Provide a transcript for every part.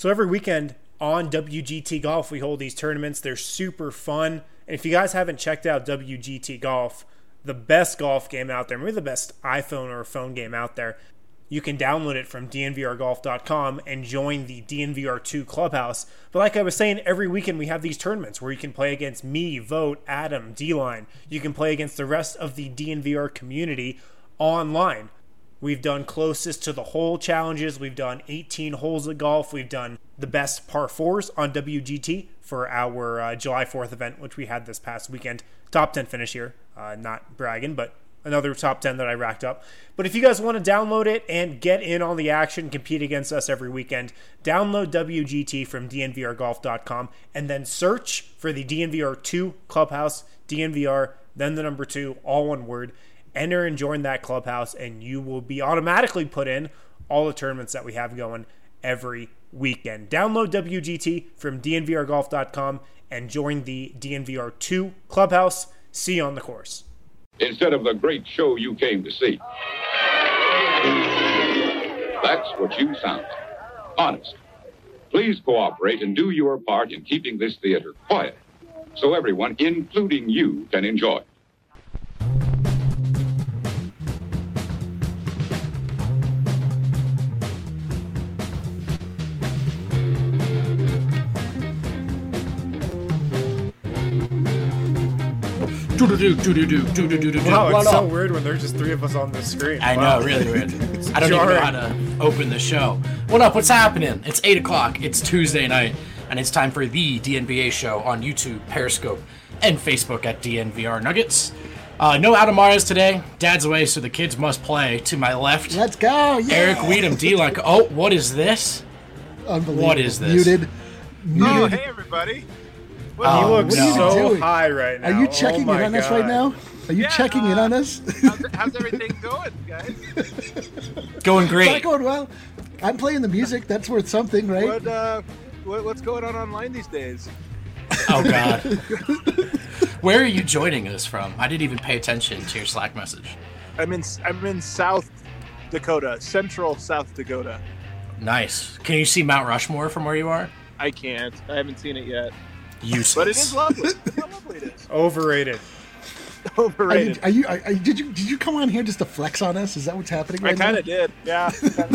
So every weekend on WGT Golf, we hold these tournaments. They're super fun. And if you guys haven't checked out WGT Golf, the best golf game out there, maybe the best iPhone or phone game out there, you can download it from dnvrgolf.com and join the DNVR2 Clubhouse. But like I was saying, every weekend we have these tournaments where you can play against me, Vote, Adam, D-Line. You can play against the rest of the DNVR community online. We've done closest to the hole challenges. We've done 18 holes of golf. We've done the best par fours on WGT for our July 4th event, which we had this past weekend. Top 10 finish here. Not bragging, but another top 10 that I racked up. But if you guys want to download it and get in on the action, compete against us every weekend, download WGT from dnvrgolf.com and then search for the DNVR2 Clubhouse, DNVR, then the number 2, all one word. Enter and join that clubhouse, and you will be automatically put in all the tournaments that we have going every weekend. Download WGT from dnvrgolf.com and join the DNVR2 Clubhouse. See you on the course. Instead of the great show you came to see. That's what you sound like. Honest. Please cooperate and do your part in keeping this theater quiet so everyone, including you, can enjoy. Wow, it's so weird when there's just 3 of us on the screen. I know, really weird. I don't even know how to open the show. What up? What's happening? It's 8 o'clock. It's Tuesday night, and it's time for the DNVA show on YouTube, Periscope, and Facebook at DNVR Nuggets. No Adam Mares today. Dad's away, so the kids must play. To my left, let's go. Yeah. Eric Weedham, D-Line. Oh, what is this? Unbelievable. What is this? Muted. Oh, hey everybody. He looks so high right now. Are you checking in on us right now? Are you checking in on us? How's everything going, guys? Going great. It's not going well. I'm playing the music. That's worth something, right? What's going on online these days? Oh, God. Where are you joining us from? I didn't even pay attention to your Slack message. I'm in South Dakota, central South Dakota. Nice. Can you see Mount Rushmore from where you are? I can't. I haven't seen it yet. Useless. But it is lovely. Look how lovely it is. Overrated. Overrated. Did you come on here just to flex on us? Is that what's happening right now? I kind of did. Yeah.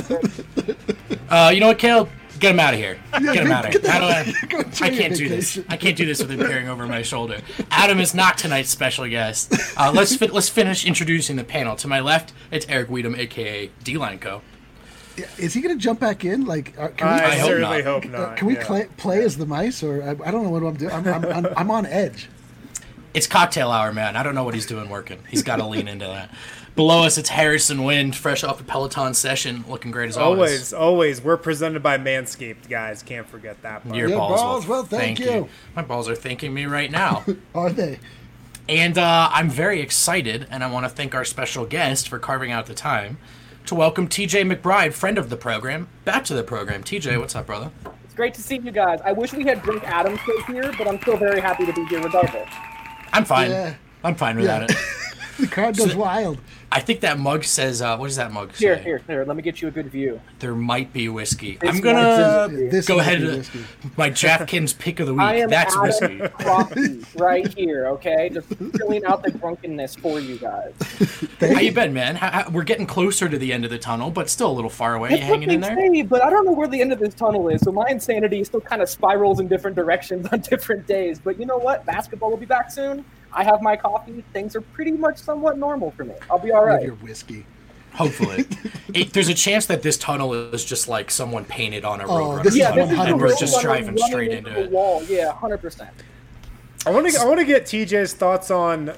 You know what, Caleb? Get him out of here. Get him out of here. I can't do this. vacation. I can't do this with him peering over my shoulder. Adam is not tonight's special guest. Let's finish introducing the panel. To my left, it's Eric Weedham, a.k.a. D-Line Co. Is he going to jump back in? Like, I certainly hope not. Can we play as the mice, or I don't know what I'm doing. I'm on edge. It's cocktail hour, man. I don't know what he's doing working. He's got to lean into that. Below us, it's Harrison Wind, fresh off a Peloton session, looking great as always. Always. We're presented by Manscaped, guys. Can't forget that part. Your balls. Well, thank you. My balls are thanking me right now. Are they? And I'm very excited, and I want to thank our special guest for carving out the time to welcome TJ McBride, friend of the program, back to the program. TJ, what's up, brother? It's great to see you guys. I wish we had Drink Adams here, but I'm still very happy to be here regardless. I'm fine. Yeah. I'm fine without it. The crowd goes wild. I think that mug says, what does that mug say? Here, let me get you a good view. There might be whiskey. I'm going to go ahead and my DraftKings pick of the week. That's whiskey. Coffee right here, okay? Just filling out the drunkenness for you guys. How you been, man? We're getting closer to the end of the tunnel, but still a little far away. You hanging in there? Say, but I don't know where the end of this tunnel is, so my insanity still kind of spirals in different directions on different days. But you know what? Basketball will be back soon. I have my coffee. Things are pretty much somewhat normal for me. I'll be all right. Your whiskey. Hopefully. There's a chance that this tunnel is just like someone painted on a road runner. And we're just driving straight into it. Wall. Yeah, 100%. I want to get TJ's thoughts on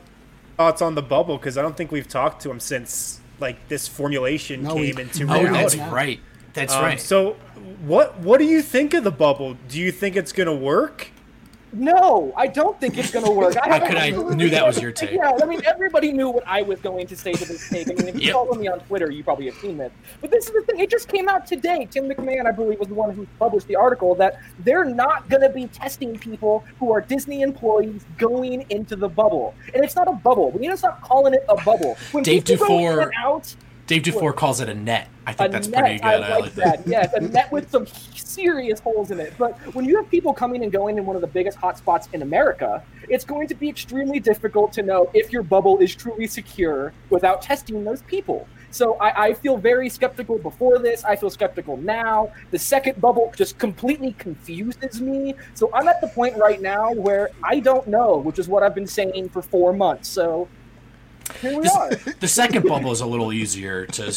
the bubble, because I don't think we've talked to him since like this formulation came into reality. That's right. So what do you think of the bubble? Do you think it's going to work? No, I don't think it's going to work. I knew that was your take. Yeah, I mean, everybody knew what I was going to say to this take. I mean, if you follow me on Twitter, you probably have seen this. But this is the thing. It just came out today. Tim McMahon, I believe, was the one who published the article that they're not going to be testing people who are Disney employees going into the bubble. And it's not a bubble. We need to stop calling it a bubble. When Dave people Dufour. go in and out, Dave Dufour calls it a net. I think that's net, pretty good. I like that. Yes, a net with some serious holes in it. But when you have people coming and going in one of the biggest hotspots in America, it's going to be extremely difficult to know if your bubble is truly secure without testing those people. So I feel very skeptical before this. I feel skeptical now. The second bubble just completely confuses me. So I'm at the point right now where I don't know, which is what I've been saying for 4 months. So here we are. The second bubble is a little easier to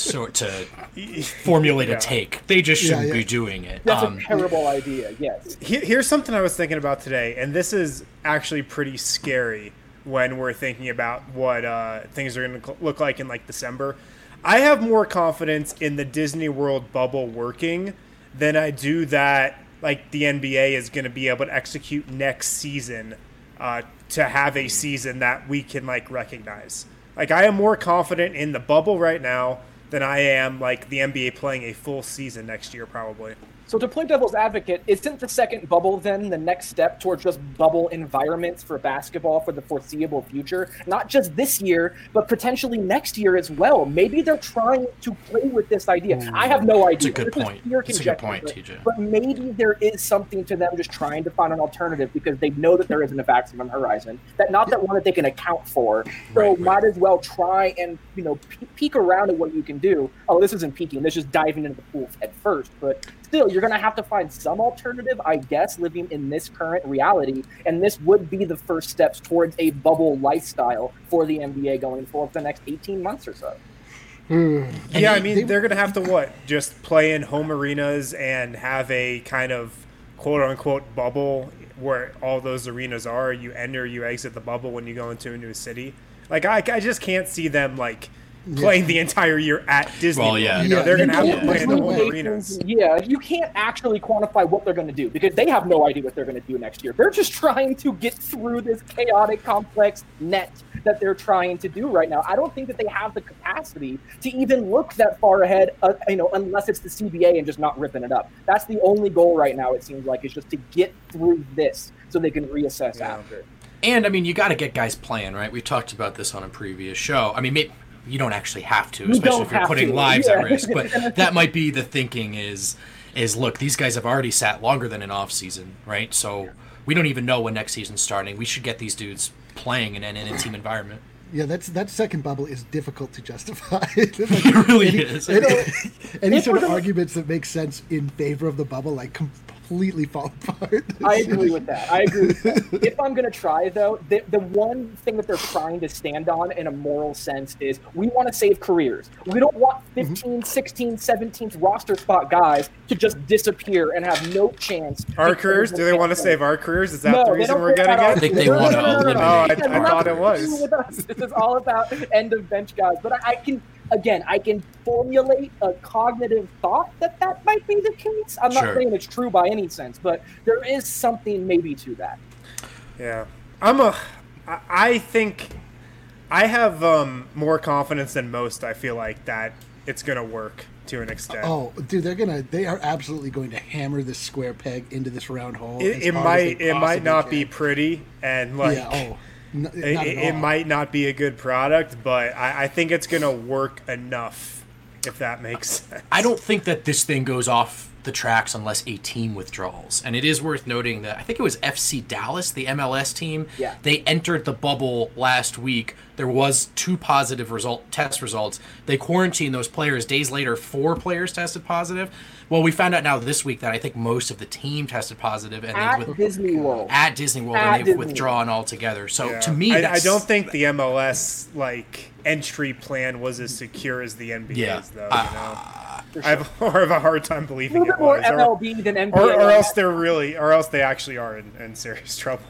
formulate a take. They just shouldn't be doing it. That's a terrible idea, yes. Here's something I was thinking about today, and this is actually pretty scary when we're thinking about what things are going to look like in like December. I have more confidence in the Disney World bubble working than I do that like the NBA is going to be able to execute next season to have a season that we can like recognize. Like I am more confident in the bubble right now than I am like the NBA playing a full season next year probably. So to play devil's advocate, isn't the second bubble then the next step towards just bubble environments for basketball for the foreseeable future? Not just this year, but potentially next year as well. Maybe they're trying to play with this idea. I have no idea. It's a good point. It's a good point, TJ. But maybe there is something to them just trying to find an alternative because they know that there isn't a maximum horizon. Not that one that they can account for. So might as well try and peek around at what you can do. Oh, this isn't peeking. This is just diving into the pool head first. But still, you're going to have to find some alternative, I guess, living in this current reality. And this would be the first steps towards a bubble lifestyle for the NBA going forward for the next 18 months or so. Yeah, I mean, they're going to have to, just play in home arenas and have a kind of quote-unquote bubble where all those arenas are. You enter, you exit the bubble when you go into a new city. Like, I just can't see them, playing the entire year at Disney. Well, yeah. They're going to have to play in the whole arenas. Yeah, you can't actually quantify what they're going to do because they have no idea what they're going to do next year. They're just trying to get through this chaotic, complex net that they're trying to do right now. I don't think that they have the capacity to even look that far ahead, unless it's the CBA and just not ripping it up. That's the only goal right now, it seems like, is just to get through this so they can reassess after. And, I mean, you got to get guys playing, right? We talked about this on a previous show. I mean, maybe you don't actually have to, especially if you're putting lives at risk. But that might be the thinking is look, these guys have already sat longer than an off season, right? So we don't even know when next season's starting. We should get these dudes playing in a team environment. Yeah, that second bubble is difficult to justify. It really is. Any sort of arguments that make sense in favor of the bubble, completely fall apart. I agree with that. If I'm going to try, though, the one thing that they're trying to stand on in a moral sense is we want to save careers. We don't want 15, 16, 17th roster spot guys to just disappear and have no chance. Our careers? Do they want to save our careers? Is that the reason we're getting it? I think they want to eliminate. Oh, I thought it was. This is all about end of bench guys. But I can formulate a cognitive thought that might be the case. I'm not saying it's true by any sense, but there is something maybe to that. Yeah. I think I have more confidence than most, I feel like, that it's going to work to an extent. Oh, dude, they are absolutely going to hammer this square peg into this round hole. It might not be pretty and it might not be a good product, but I think it's going to work enough, if that makes sense. I don't think that this thing goes off the tracks unless a team withdraws. And it is worth noting that I think it was FC Dallas, the MLS team. Yeah. They entered the bubble last week. There was 2 positive test results. They quarantined those players. Days later, 4 players tested positive. Well, we found out now this week that I think most of the team tested positive. And at Disney World. At Disney World, and they've withdrawn altogether. So to me, I don't think the MLS entry plan was as secure as the NBA's, though. I have more of a hard time believing it was. More MLB than NBA. Or else they actually are in serious trouble.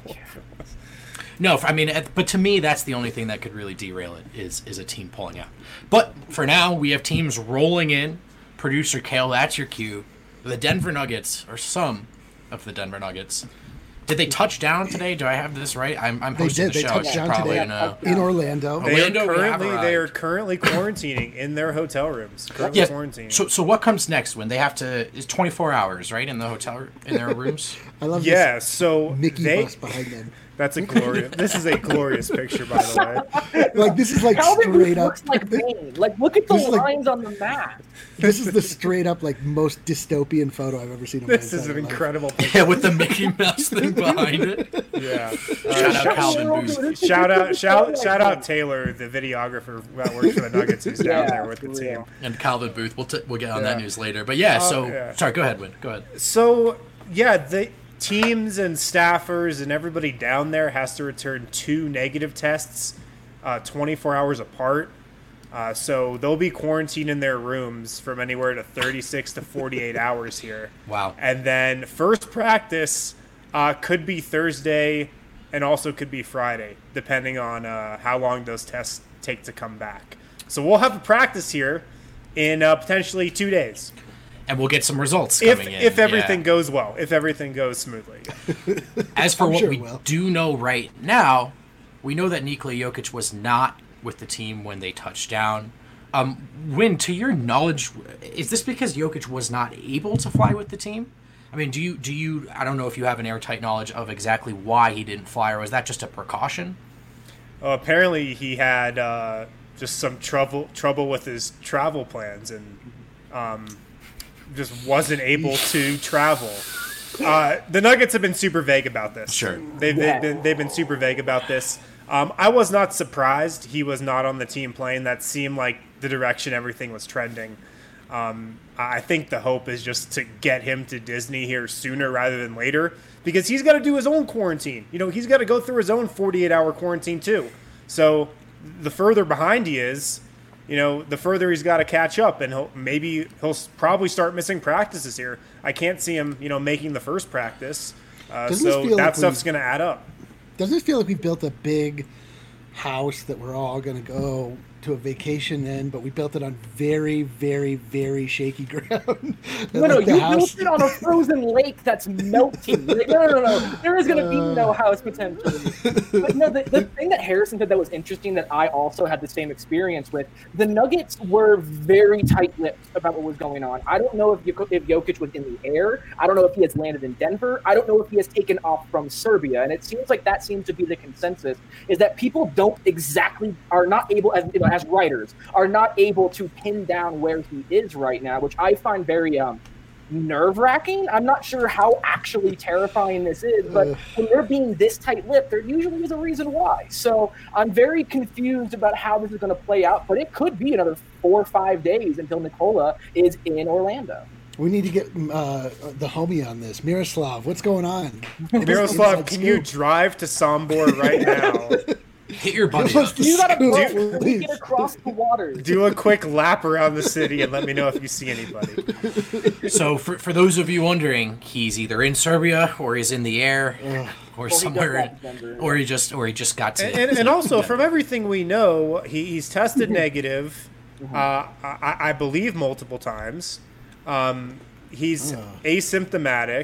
No, I mean, but to me, that's the only thing that could really derail it is a team pulling out. But for now, we have teams rolling in. Producer Kale, that's your cue. The Denver Nuggets, or some of the Denver Nuggets. Did they touch down today? Do I have this right? I'm hosting the show. They touched down today in Orlando. They are currently quarantining in their hotel rooms. Quarantining. So what comes next when they have to? It's 24 hours, right, in the hotel in their rooms. I love this. So Mickey bus behind them. That's a glorious. This is a glorious picture, by the way. Like this is like Calvin straight up. looks like Bane. Like look at the This is like- lines on the map. This is the straight up like most dystopian photo I've ever seen. In This my is an entire life. incredible picture. Yeah, with the Mickey Mouse thing behind it. Yeah. Shout out Calvin Booth. Shout out Taylor, the videographer that works for the Nuggets, who's down there with the for team. real. And Calvin Booth. We'll get on that news later. But yeah, so yeah. sorry. Go ahead, Win. Go ahead. So yeah, the teams and staffers and everybody down there has to return 2 negative tests 24 hours apart. So they'll be quarantined in their rooms from anywhere to 36 to 48 hours here. Wow. And then first practice could be Thursday and also could be Friday, depending on how long those tests take to come back. So we'll have a practice here in potentially 2 days. And we'll get some results coming in. If everything Yeah. goes well, if everything goes smoothly. As for I'm what sure we it will. do know right now, we know that Nikola Jokic was not with the team when they touched down. Win, to your knowledge, is this because Jokic was not able to fly with the team? I mean, do you? I don't know if you have an airtight knowledge of exactly why he didn't fly, or was that just a precaution? Apparently, he had just some trouble with his travel plans and just wasn't able to travel. The Nuggets have been super vague about this. Sure. They've been super vague about this. I was not surprised he was not on the team plane. That seemed like the direction everything was trending. I think the hope is just to get him to Disney here sooner rather than later, because he's got to do his own quarantine. You know, he's got to go through his own 48-hour quarantine too. So the further behind he is, you know, the further he's got to catch up, and he'll probably start missing practices here. I can't see him, making the first practice. So feel that like stuff's going to add up. Doesn't it feel like we built a big house that we're all going to go to a vacation in, but we built it on very, very, very shaky ground? No, Like the you house- built it on a frozen lake that's melting. Like, no. There is going to be no house potentially. But no, the thing that Harrison said that was interesting that I also had the same experience with, the Nuggets were very tight-lipped about what was going on. I don't know if Jokic was in the air. I don't know if he has landed in Denver. I don't know if he has taken off from Serbia. And it seems like that seems to be the consensus, is that people are not able, as writers, are not able to pin down where he is right now, which I find very nerve-wracking. I'm not sure how actually terrifying this is, but when they're being this tight-lipped, there usually is a reason why. So I'm very confused about how this is going to play out, but it could be another 4 or 5 days until Nikola is in Orlando. We need to get the homie on this. Miroslav, what's going on? Miroslav, can you drive to Sombor right now? Hit your buddy up. You got to Please. get across the waters. Do a quick lap around the city and let me know if you see anybody. So for those of you wondering, he's either in Serbia or he's in the air or somewhere, or he just got to. And also, from everything we know, he's tested negative, I believe multiple times. He's asymptomatic,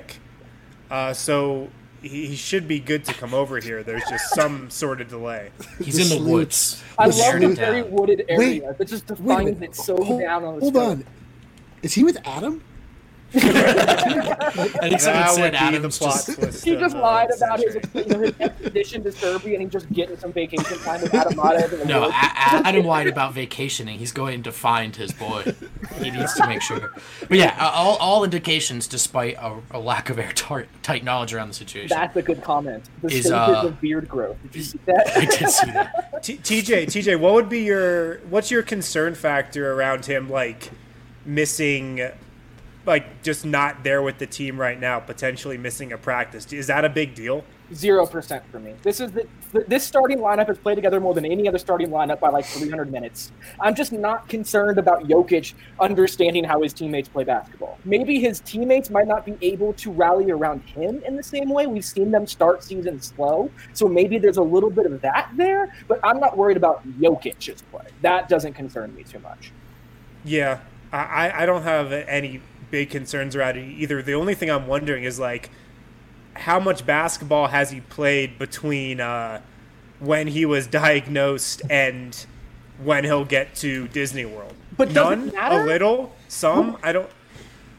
so he should be good to come over here. There's just some sort of delay. He's in the woods. I He's love staring the it very down. wooded area Wait, that just Wait a defines minute. it so down on the Hold scope. on. Is he with Adam? I think someone That said would be Adam's the plot just. twist. He of just the lied about his century. expedition to Serbia, and he's just getting some vacation time with Adam Matev in the No, woods. Adam lied about vacationing. He's going to find his boy. He needs to make sure. But yeah, all indications, despite a lack of airtight knowledge around the situation. That's a good comment. The Is, stages of beard growth. Did you see I that? did see that. TJ, what's your concern factor around him, like missing, like just not there with the team right now, potentially missing a practice? Is that a big deal? 0% for me. This is this starting lineup has played together more than any other starting lineup by like 300 minutes. I'm just not concerned about Jokic understanding how his teammates play basketball. Maybe his teammates might not be able to rally around him in the same way. We've seen them start seasons slow, so maybe there's a little bit of that there, but I'm not worried about Jokic's play. That doesn't concern me too much. Yeah, I don't have any big concerns around it either. The only thing I'm wondering is, like, how much basketball has he played between when he was diagnosed and when he'll get to Disney World? But does it none, matter? a little, some. I don't.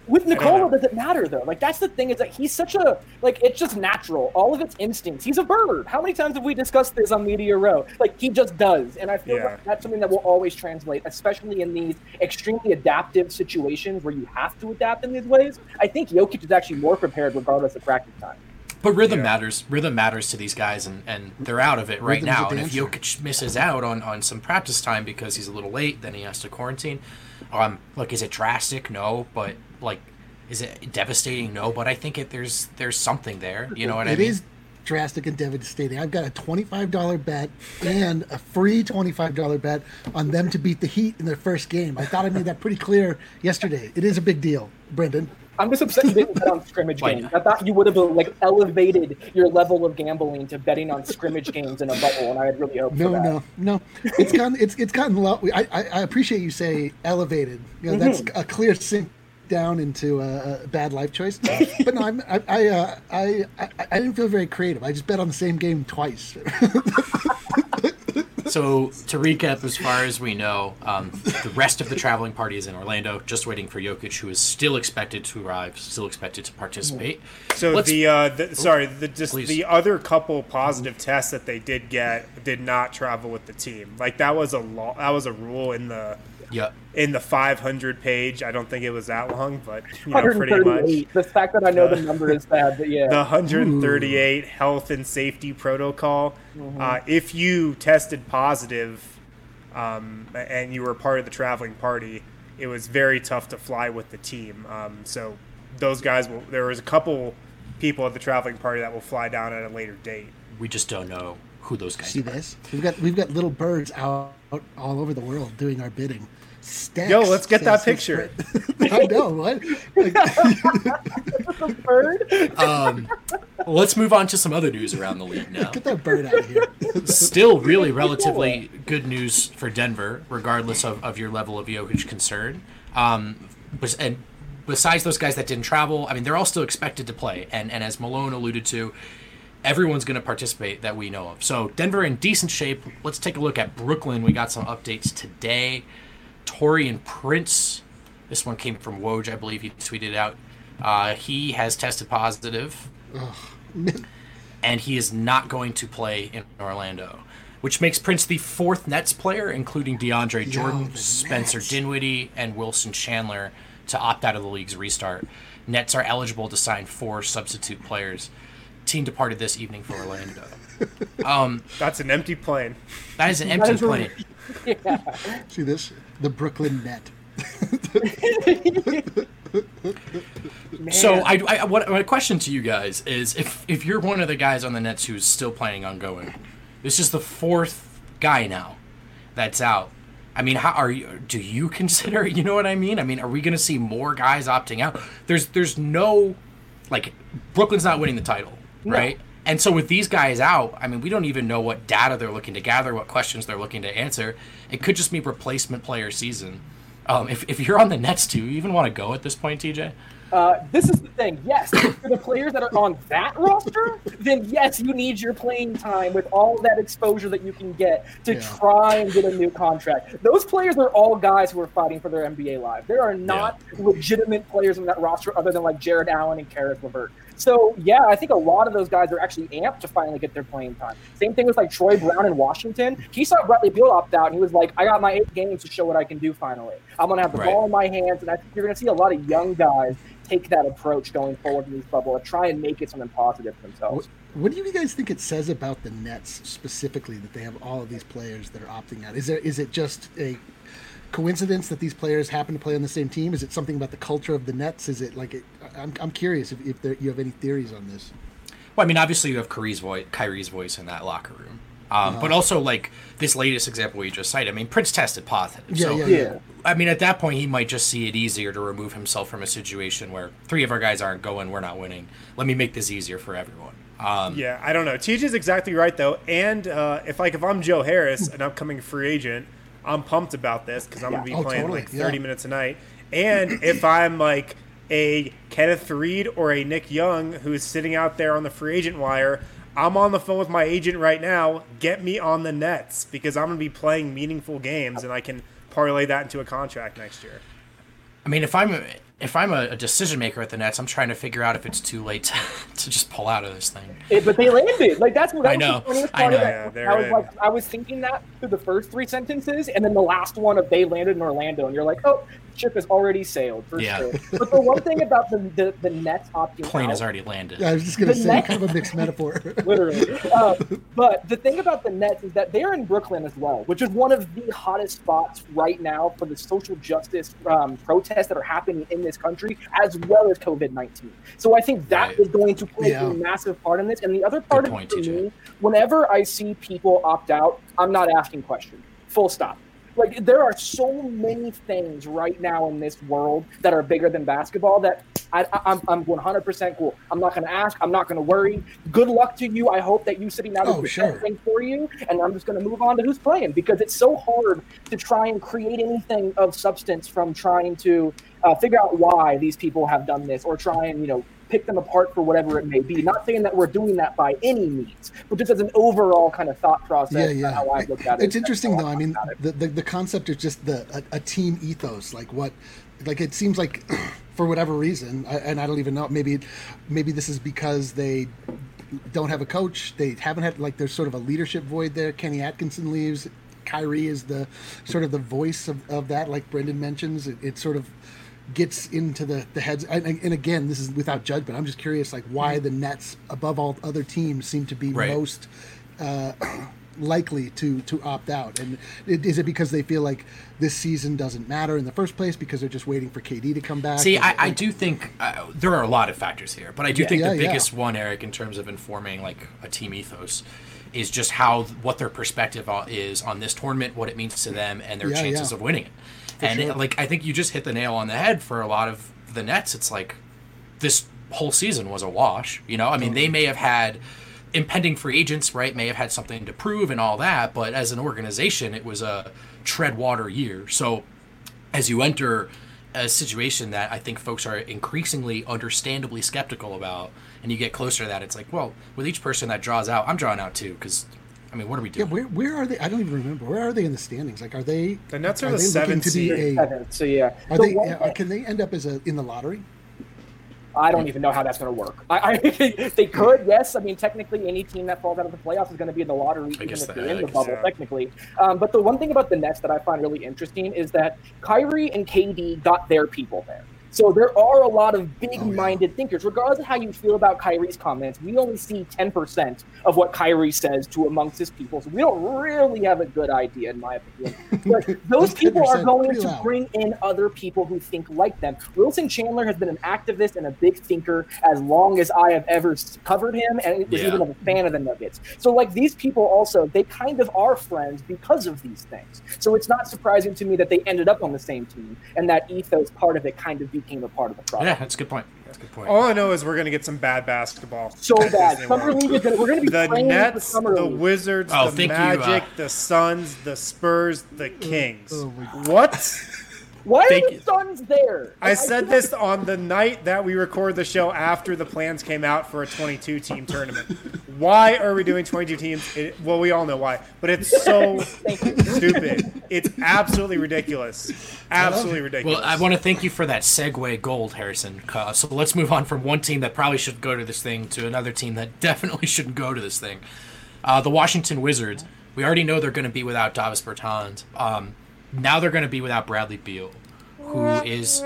With Nikola, does it matter though? Like that's the thing, is that he's such a it's just natural. All of its instincts. He's a bird. How many times have we discussed this on Media Row? Like he just does, and I feel like that's something that will always translate, especially in these extremely adaptive situations where you have to adapt in these ways. I think Jokic is actually more prepared regardless of practice time. But rhythm matters. Rhythm matters to these guys, and they're out of it right now. And if Jokic misses out on some practice time because he's a little late, then he has to quarantine. Look, is it drastic? No, but is it devastating? No, but I think there's something there. You know what I mean? It is drastic and devastating. I've got a $25 bet and a free $25 bet on them to beat the Heat in their first game. I thought I made that pretty clear yesterday. It is a big deal, Brendan. I'm just upset you didn't bet on scrimmage games. I thought you would have elevated your level of gambling to betting on scrimmage games in a bubble, and I had really hoped for that. No. It's gotten low. I appreciate you say elevated. You know, that's a clear sink down into a bad life choice. But no, I didn't feel very creative. I just bet on the same game twice. So to recap, as far as we know, the rest of the traveling party is in Orlando, just waiting for Jokic, who is still expected to arrive, still expected to participate. So the other couple positive tests that they did get did not travel with the team. Like that was a rule in the 500 page. I don't think it was that long, but pretty much. The fact that I know the number is bad, but yeah. The 138 health and safety protocol. If you tested positive and you were part of the traveling party, it was very tough to fly with the team. So those guys there was a couple people at the traveling party that will fly down at a later date. We just don't know who those guys are. See this? We've got little birds out all over the world doing our bidding. Stacks, yo, let's get that picture. I know, what? A bird? Let's move on to some other news around the league now. Get that bird out of here. Still really relatively good news for Denver, regardless of your level of Jokic concern. And besides those guys that didn't travel, I mean, they're all still expected to play. And as Malone alluded to, everyone's going to participate that we know of. So Denver in decent shape. Let's take a look at Brooklyn. We got some updates today. Taurean Prince, this one came from Woj, I believe he tweeted out. He has tested positive, and he is not going to play in Orlando, which makes Prince the fourth Nets player, including DeAndre Jordan, Spencer Dinwiddie, and Wilson Chandler, to opt out of the league's restart. Nets are eligible to sign 4 substitute players. Team departed this evening for Orlando. That's an empty plane. That is an empty plane. Yeah. See this? The Brooklyn Net. So what my question to you guys is, if you're one of the guys on the Nets who's still planning on going, this is the 4th guy now that's out. I mean, do you consider, you know what I mean? I mean, are we going to see more guys opting out? There's no, Brooklyn's not winning the title, right? No. And so with these guys out, I mean, we don't even know what data they're looking to gather, what questions they're looking to answer. It could just be replacement player season. If you're on the Nets, do you even want to go at this point, TJ? This is the thing. Yes, for the players that are on that roster, then yes, you need your playing time with all that exposure that you can get to try and get a new contract. Those players are all guys who are fighting for their NBA lives. There are not legitimate players on that roster other than Jared Allen and Karis LeVert. So, yeah, I think a lot of those guys are actually amped to finally get their playing time. Same thing with Troy Brown in Washington. He saw Bradley Beal opt out, and he was like, I got my 8 games to show what I can do finally. I'm going to have the ball in my hands, and I think you're going to see a lot of young guys take that approach going forward in this bubble and try and make it something positive for themselves. What do you guys think it says about the Nets specifically that they have all of these players that are opting out? Is it just a coincidence that these players happen to play on the same team? Is it something about the culture of the Nets? Is it I'm curious if you have any theories on this. Well, I mean, obviously you have Kyrie's voice in that locker room. But also, this latest example you just cited, I mean, Prince tested positive. Yeah. I mean, at that point, he might just see it easier to remove himself from a situation where 3 of our guys aren't going, we're not winning. Let me make this easier for everyone. I don't know. TJ's exactly right, though. And if I'm Joe Harris, an upcoming free agent, I'm pumped about this because I'm going to be playing 30 minutes a night. And if I'm a Kenneth Reed or a Nick Young who's sitting out there on the free agent wire, I'm on the phone with my agent right now. Get me on the Nets because I'm going to be playing meaningful games and I can parlay that into a contract next year. I mean, if if I'm a decision maker at the Nets, I'm trying to figure out if it's too late to just pull out of this thing. But they landed. Like that's what I know. I was thinking that through the first 3 sentences, and then the last one of they landed in Orlando, and you're like, oh, the ship has already sailed for sure. But the one thing about the Nets opting plane out, has already landed. Yeah, I was just gonna say kind of a mixed metaphor. Literally. But the thing about the Nets is that they're in Brooklyn as well, which is one of the hottest spots right now for the social justice protests that are happening in this country, as well as COVID-19. So I think that is going to play a massive part in this. And the other part of it for me, whenever I see people opt out, I'm not asking questions. Full stop. Like, there are so many things right now in this world that are bigger than basketball that I'm 100% cool. I'm not going to ask. I'm not going to worry. Good luck to you. I hope that you sitting out is the best thing for you. And I'm just going to move on to who's playing, because it's so hard to try and create anything of substance from trying to figure out why these people have done this, or try and, pick them apart for whatever it may be. Not saying that we're doing that by any means, but just as an overall kind of thought process. How I look at it. It's interesting though. I mean, the concept is just a team ethos. Like it seems like for whatever reason, and I don't even know. Maybe this is because they don't have a coach. They haven't had, like, there's sort of a leadership void there. Kenny Atkinson leaves. Kyrie is the sort of the voice of that. Like Brendan mentions, it sort of gets into the heads, and again, this is without judgment. I'm just curious, like, why the Nets, above all other teams, seem to be most likely to opt out. And is it because they feel like this season doesn't matter in the first place, because they're just waiting for KD to come back? See, I do think there are a lot of factors here, but I do think the biggest one, Eric, in terms of informing like a team ethos, is just what their perspective is on this tournament, what it means to them, and their chances of winning it. I think you just hit the nail on the head for a lot of the Nets. It's like this whole season was a wash. I mean, they may have had impending free agents, right? May have had something to prove and all that, but as an organization, it was a tread water year. So as you enter a situation that I think folks are increasingly understandably skeptical about, and you get closer to that, it's like, well, with each person that draws out, I'm drawing out too, because I mean, what are we doing? Yeah, where are they? I don't even remember. Where are they in the standings? Like, are they? The Nets are the 7th seed. So yeah, are they? Can they end up in the lottery? I don't even know how that's going to work. They could, yes. I mean, technically, any team that falls out of the playoffs is going to be in the lottery, even if they're in the bubble, technically. But the one thing about the Nets that I find really interesting is that Kyrie and KD got their people there. So there are a lot of big-minded thinkers. Regardless of how you feel about Kyrie's comments, we only see 10% of what Kyrie says to amongst his people. So we don't really have a good idea, in my opinion. But those people are going to bring in other people who think like them. Wilson Chandler has been an activist and a big thinker as long as I have ever covered him, and was even a fan of the Nuggets. So, like, these people also, they kind of are friends because of these things. So it's not surprising to me that they ended up on the same team, and that ethos part of it kind of became a part of the problem. Yeah, that's a good point. All I know is we're going to get some bad basketball. So bad. Summer League is we're going to be the playing Nets, Summer the League. Wizards, the Magic, the Suns, the Spurs, the Kings. What? Why are the Suns there? I said this on the night that we recorded the show after the plans came out for a 22-team tournament. Why are we doing 22 teams? Well, we all know why, but it's so stupid. It's absolutely ridiculous. Absolutely ridiculous. Well, I want to thank you for that segue gold, Harrison. So let's move on from one team that probably should go to this thing to another team that definitely shouldn't go to this thing. The Washington Wizards. We already know they're going to be without Davis Bertans. Now they're going to be without Bradley Beal, who is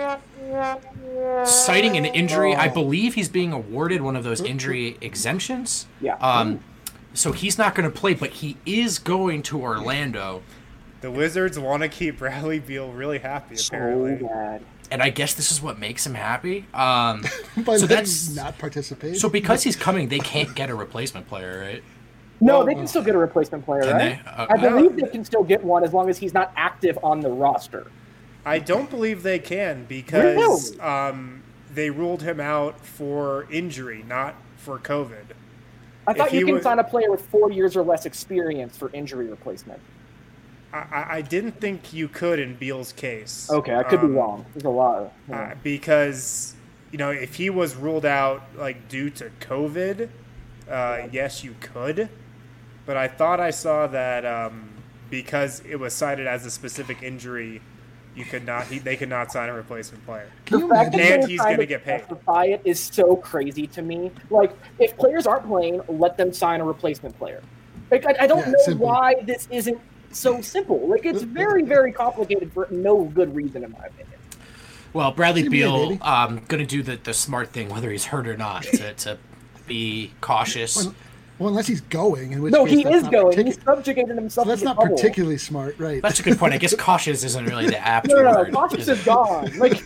citing an injury. I believe he's being awarded one of those injury exemptions. Yeah. So he's not going to play, but he is going to Orlando. The Wizards want to keep Bradley Beal really happy, apparently. So bad. And I guess this is what makes him happy. So that's not participating. So because he's coming, they can't get a replacement player, right? No, they can still get a replacement player, right? I believe they can still get one as long as he's not active on the roster. I don't believe they can because they ruled him out for injury, not for COVID. I thought you can sign a player with 4 years or less experience for injury replacement. I didn't think you could in Beal's case. Okay, I could be wrong. There's a lot of... because, if he was ruled out like due to COVID, yes, you could. But I thought I saw that because it was cited as a specific injury, You could not. They could not sign a replacement player. Can you The fact that imagine? And they're he's trying gonna to get paid. justify it is so crazy to me. Like, if players aren't playing, let them sign a replacement player. Like, I don't Yeah, know simple. why this isn't so simple. Like, it's very, very complicated for no good reason, in my opinion. Well, Bradley Same here, Beal baby. going to do the smart thing, whether he's hurt or not, to be cautious. Well, unless he's going, in which No, case he that's is not going. particu- He's subjugated himself So that's to the not bubble. particularly smart, right? That's a good point. I guess cautious isn't really the apt No, word. Cautious is it? is gone. Like,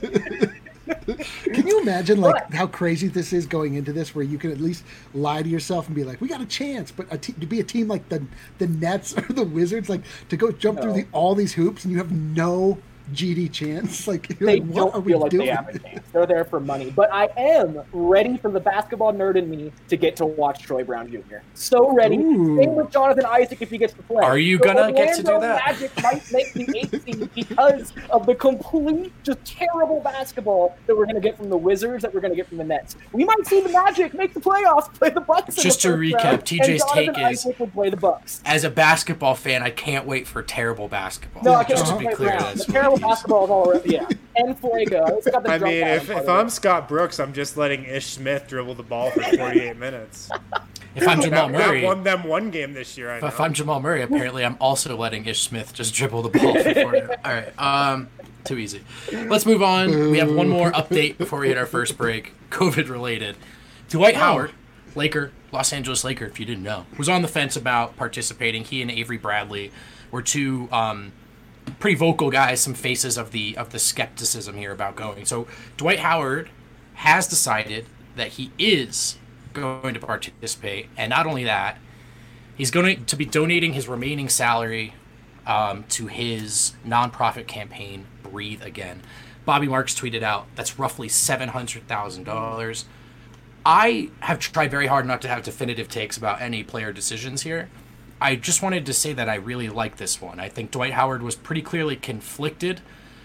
Can you imagine how crazy this is going into this, where you can at least lie to yourself and be like, "We got a chance," but to be a team like the Nets or the Wizards, like to go jump through all these hoops and you have no GD chance, like you're they like, what are don't we feel like doing? they have a chance. They're there for money. But I am ready for the basketball nerd in me to get to watch Troy Brown Jr. So ready. Ooh. Same with Jonathan Isaac if he gets to play. Are you The gonna get to do Orlando that? Magic might make the 8th seed because of the complete, just terrible basketball that we're going to get from the Wizards, that we're going to get from the Nets. We might see the Magic make the playoffs, play the Bucks. Just in to the first recap, round, TJ's and Jonathan take is- Isaac will play the Bucks. As a basketball fan, I can't wait for terrible basketball. No, I can't Just to wait be for clear, that. that's The what terrible it is. basketball is all around. Yeah, and Fuego. It's got the I drunk mean, Adam if part of I'm it. Scott Brooks, I'm just letting Ish Smith dribble the ball for 48 minutes. If I'm Jamal That Murray, won them one game this year. I know. if I'm Jamal Murray, apparently I'm also letting Ish Smith just dribble the ball for 40. All right, too easy. Let's move on. We have one more update before we hit our first break, COVID related. Dwight Howard, Laker, Los Angeles Laker, if you didn't know, was on the fence about participating. He and Avery Bradley were two pretty vocal guys, some faces of the skepticism here about going. So Dwight Howard has decided that he is going to participate, and not only that, he's going to be donating his remaining salary to his nonprofit campaign, Breathe Again. Bobby Marks tweeted out that's roughly $700,000. I have tried very hard not to have definitive takes about any player decisions here. I just wanted to say that I really like this one. I think Dwight Howard was pretty clearly conflicted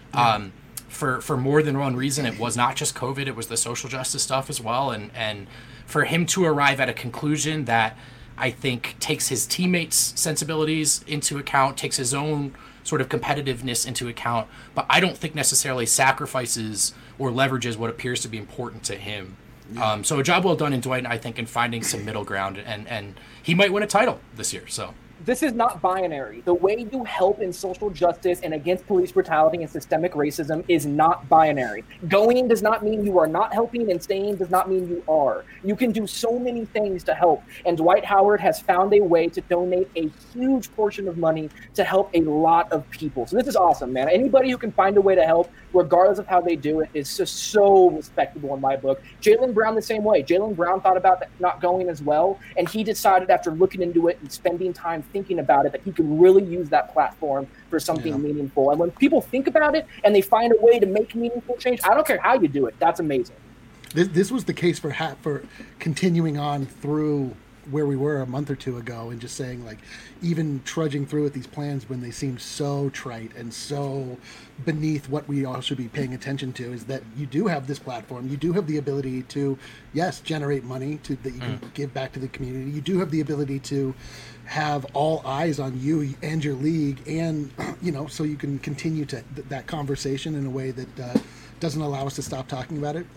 for more than one reason. It was not just COVID, it was the social justice stuff as well. And for him to arrive at a conclusion that I think takes his teammates' sensibilities into account, takes his own sort of competitiveness into account, but I don't think necessarily sacrifices or leverages what appears to be important to him. So a job well done in Dwight, I think, in finding some middle ground, and he might win a title this year. So This is not binary. The way you help in social justice and against police brutality and systemic racism is not binary. Going does not mean you are not helping, and staying does not mean you are. You can do so many things to help, and Dwight Howard has found a way to donate a huge portion of money to help a lot of people. So this is awesome, man. Anybody who can find a way to help, regardless of how they do it, is just so respectable in my book. Jaylen Brown the same way. Jaylen Brown thought about not going as well, and he decided after looking into it and spending time thinking about it that he could really use that platform for something meaningful. And when people think about it and they find a way to make meaningful change, I don't care how you do it. That's amazing. This was the case for continuing on through where we were a month or two ago, and just saying, like, even trudging through with these plans when they seem so trite and so beneath what we all should be paying attention to, is that you do have this platform, you do have the ability to, yes, generate money that you can give back to the community. You do have the ability to have all eyes on you and your league, and so you can continue to that conversation in a way that doesn't allow us to stop talking about it.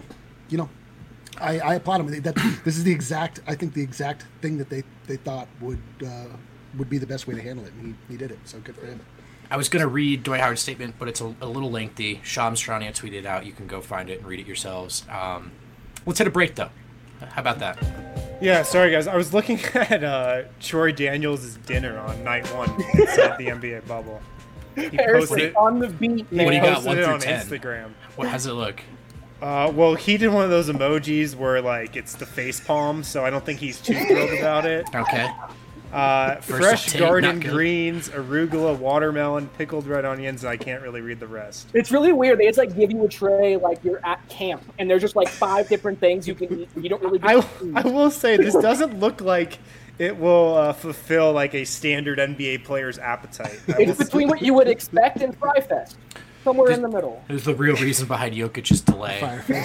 I applaud him. This is the exact thing that they thought would be the best way to handle it, and he did it. So good for him. I was going to read Dwight Howard's statement, but it's a little lengthy. Shams Charania tweeted out. You can go find it and read it yourselves. Let's hit a break, though. How about that? Yeah, sorry guys. I was looking at Troy Daniels' dinner on night one inside the NBA bubble. He posted it on the beat, man. What do you got, posted 1 it through on 10? Instagram. How does it look? Well, he did one of those emojis where, like, it's the face palm, so I don't think he's too thrilled about it. Okay. Fresh take, garden not good. greens, arugula, watermelon, pickled red onions. I can't really read the rest. It's really weird. They just like give you a tray like you're at camp, and there's just like 5 different things you can eat. You don't really. I will say this doesn't look like it will fulfill like a standard NBA player's appetite. It's between what you would expect and Fry Fest. somewhere in the middle. There's the real reason behind Jokic's delay.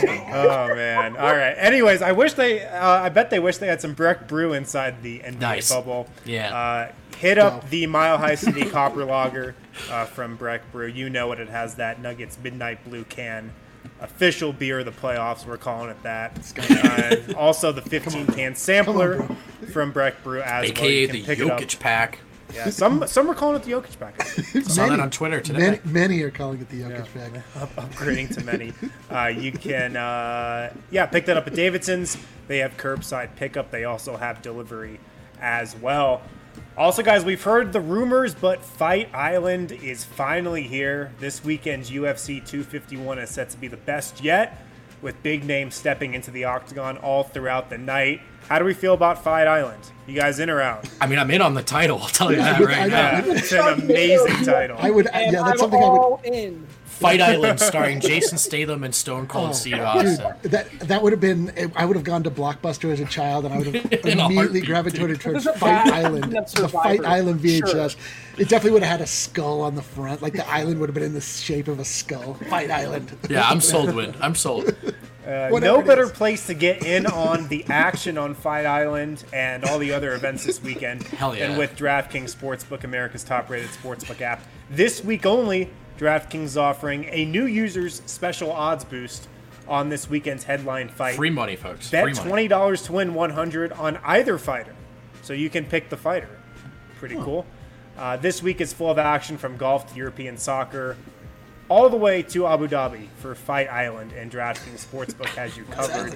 Oh man! All right. Anyways, I bet they wish they had some Breck Brew inside the NBA bubble. Yeah. Hit up the Mile High City Copper Lager from Breck Brew. You know it. It has that Nuggets Midnight Blue can. Official beer of the playoffs, we're calling it that. Also, the 15-can sampler from Breck Brew as AKA well. the Jokic pack. Yeah, some are calling it the Jokic pack. Saw that on Twitter today. Many are calling it the Jokic pack. Upgrading to many. You can, pick that up at Davidson's. They have curbside pickup. They also have delivery as well. Also, guys, we've heard the rumors, but Fight Island is finally here. This weekend's UFC 251 is set to be the best yet, with big names stepping into the octagon all throughout the night. How do we feel about Fight Island? You guys in or out? I mean, I'm in on the title. I'll tell you that right now. It's an amazing title. That's something I would. In. Fight Island, starring Jason Statham and Stone Cold Steve Austin. Dude, that would have been. I would have gone to Blockbuster as a child, and I would have immediately gravitated towards Fight Island, the Fight Island VHS. Sure. It definitely would have had a skull on the front, like the island would have been in the shape of a skull. Fight Island. Yeah, I'm sold, Win. I'm sold. No better place to get in on the action on Fight Island and all the other events this weekend than with DraftKings Sportsbook, America's top-rated sportsbook app. This week only, DraftKings is offering a new user's special odds boost on this weekend's headline fight. Free money, folks. Bet Free money. $20 to win $100 on either fighter, so you can pick the fighter. Pretty cool. This week is full of action from golf to European soccer, all the way to Abu Dhabi for Fight Island, and DraftKings Sportsbook has you covered.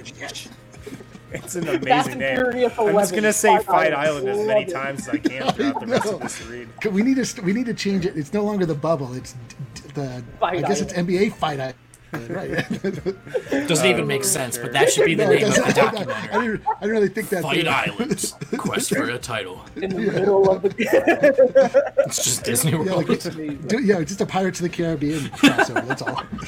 It's an amazing name. I'm just going to say Fight Island as many times as I can throughout the rest of this read. We need to change it. It's no longer the bubble. It's the Fight I guess Island. it's NBA Fight Island. Right. Doesn't even make sense, but that should be the name of the documentary. I didn't really think that. Fight Islands, quest for a title. In the middle of the It's just Disney World. Just a Pirates of the Caribbean crossover. That's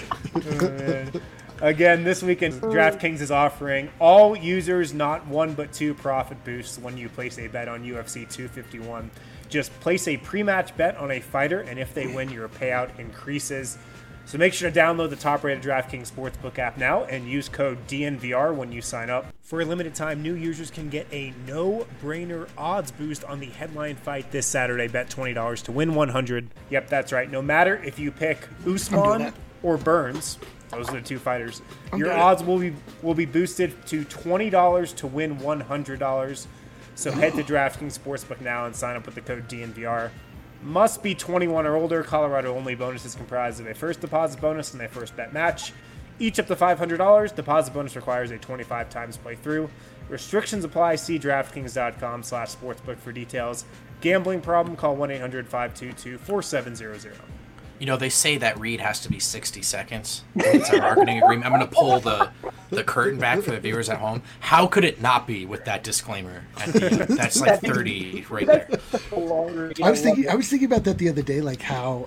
all. Again, this weekend, DraftKings is offering all users not one but two profit boosts when you place a bet on UFC 251. Just place a pre-match bet on a fighter, and if they win, your payout increases. So make sure to download the top-rated DraftKings Sportsbook app now and use code DNVR when you sign up. For a limited time, new users can get a no-brainer odds boost on the headline fight this Saturday. Bet $20 to win $100. Yep, that's right. No matter if you pick Usman or Burns, those are the two fighters, your odds will be boosted to $20 to win $100. So head to DraftKings Sportsbook now and sign up with the code DNVR. Must be 21 or older. Colorado only. Bonus is comprised of a first deposit bonus and a first bet match. Each up to $500. Deposit bonus requires a 25 times playthrough. Restrictions apply. See DraftKings.com/sportsbook for details. Gambling problem? Call 1-800-522-4700. You know, they say that read has to be 60 seconds. It's a marketing agreement. I'm going to pull the curtain back for the viewers at home. How could it not be with that disclaimer at the end? That's like 30 right there. I was thinking about that the other day, like how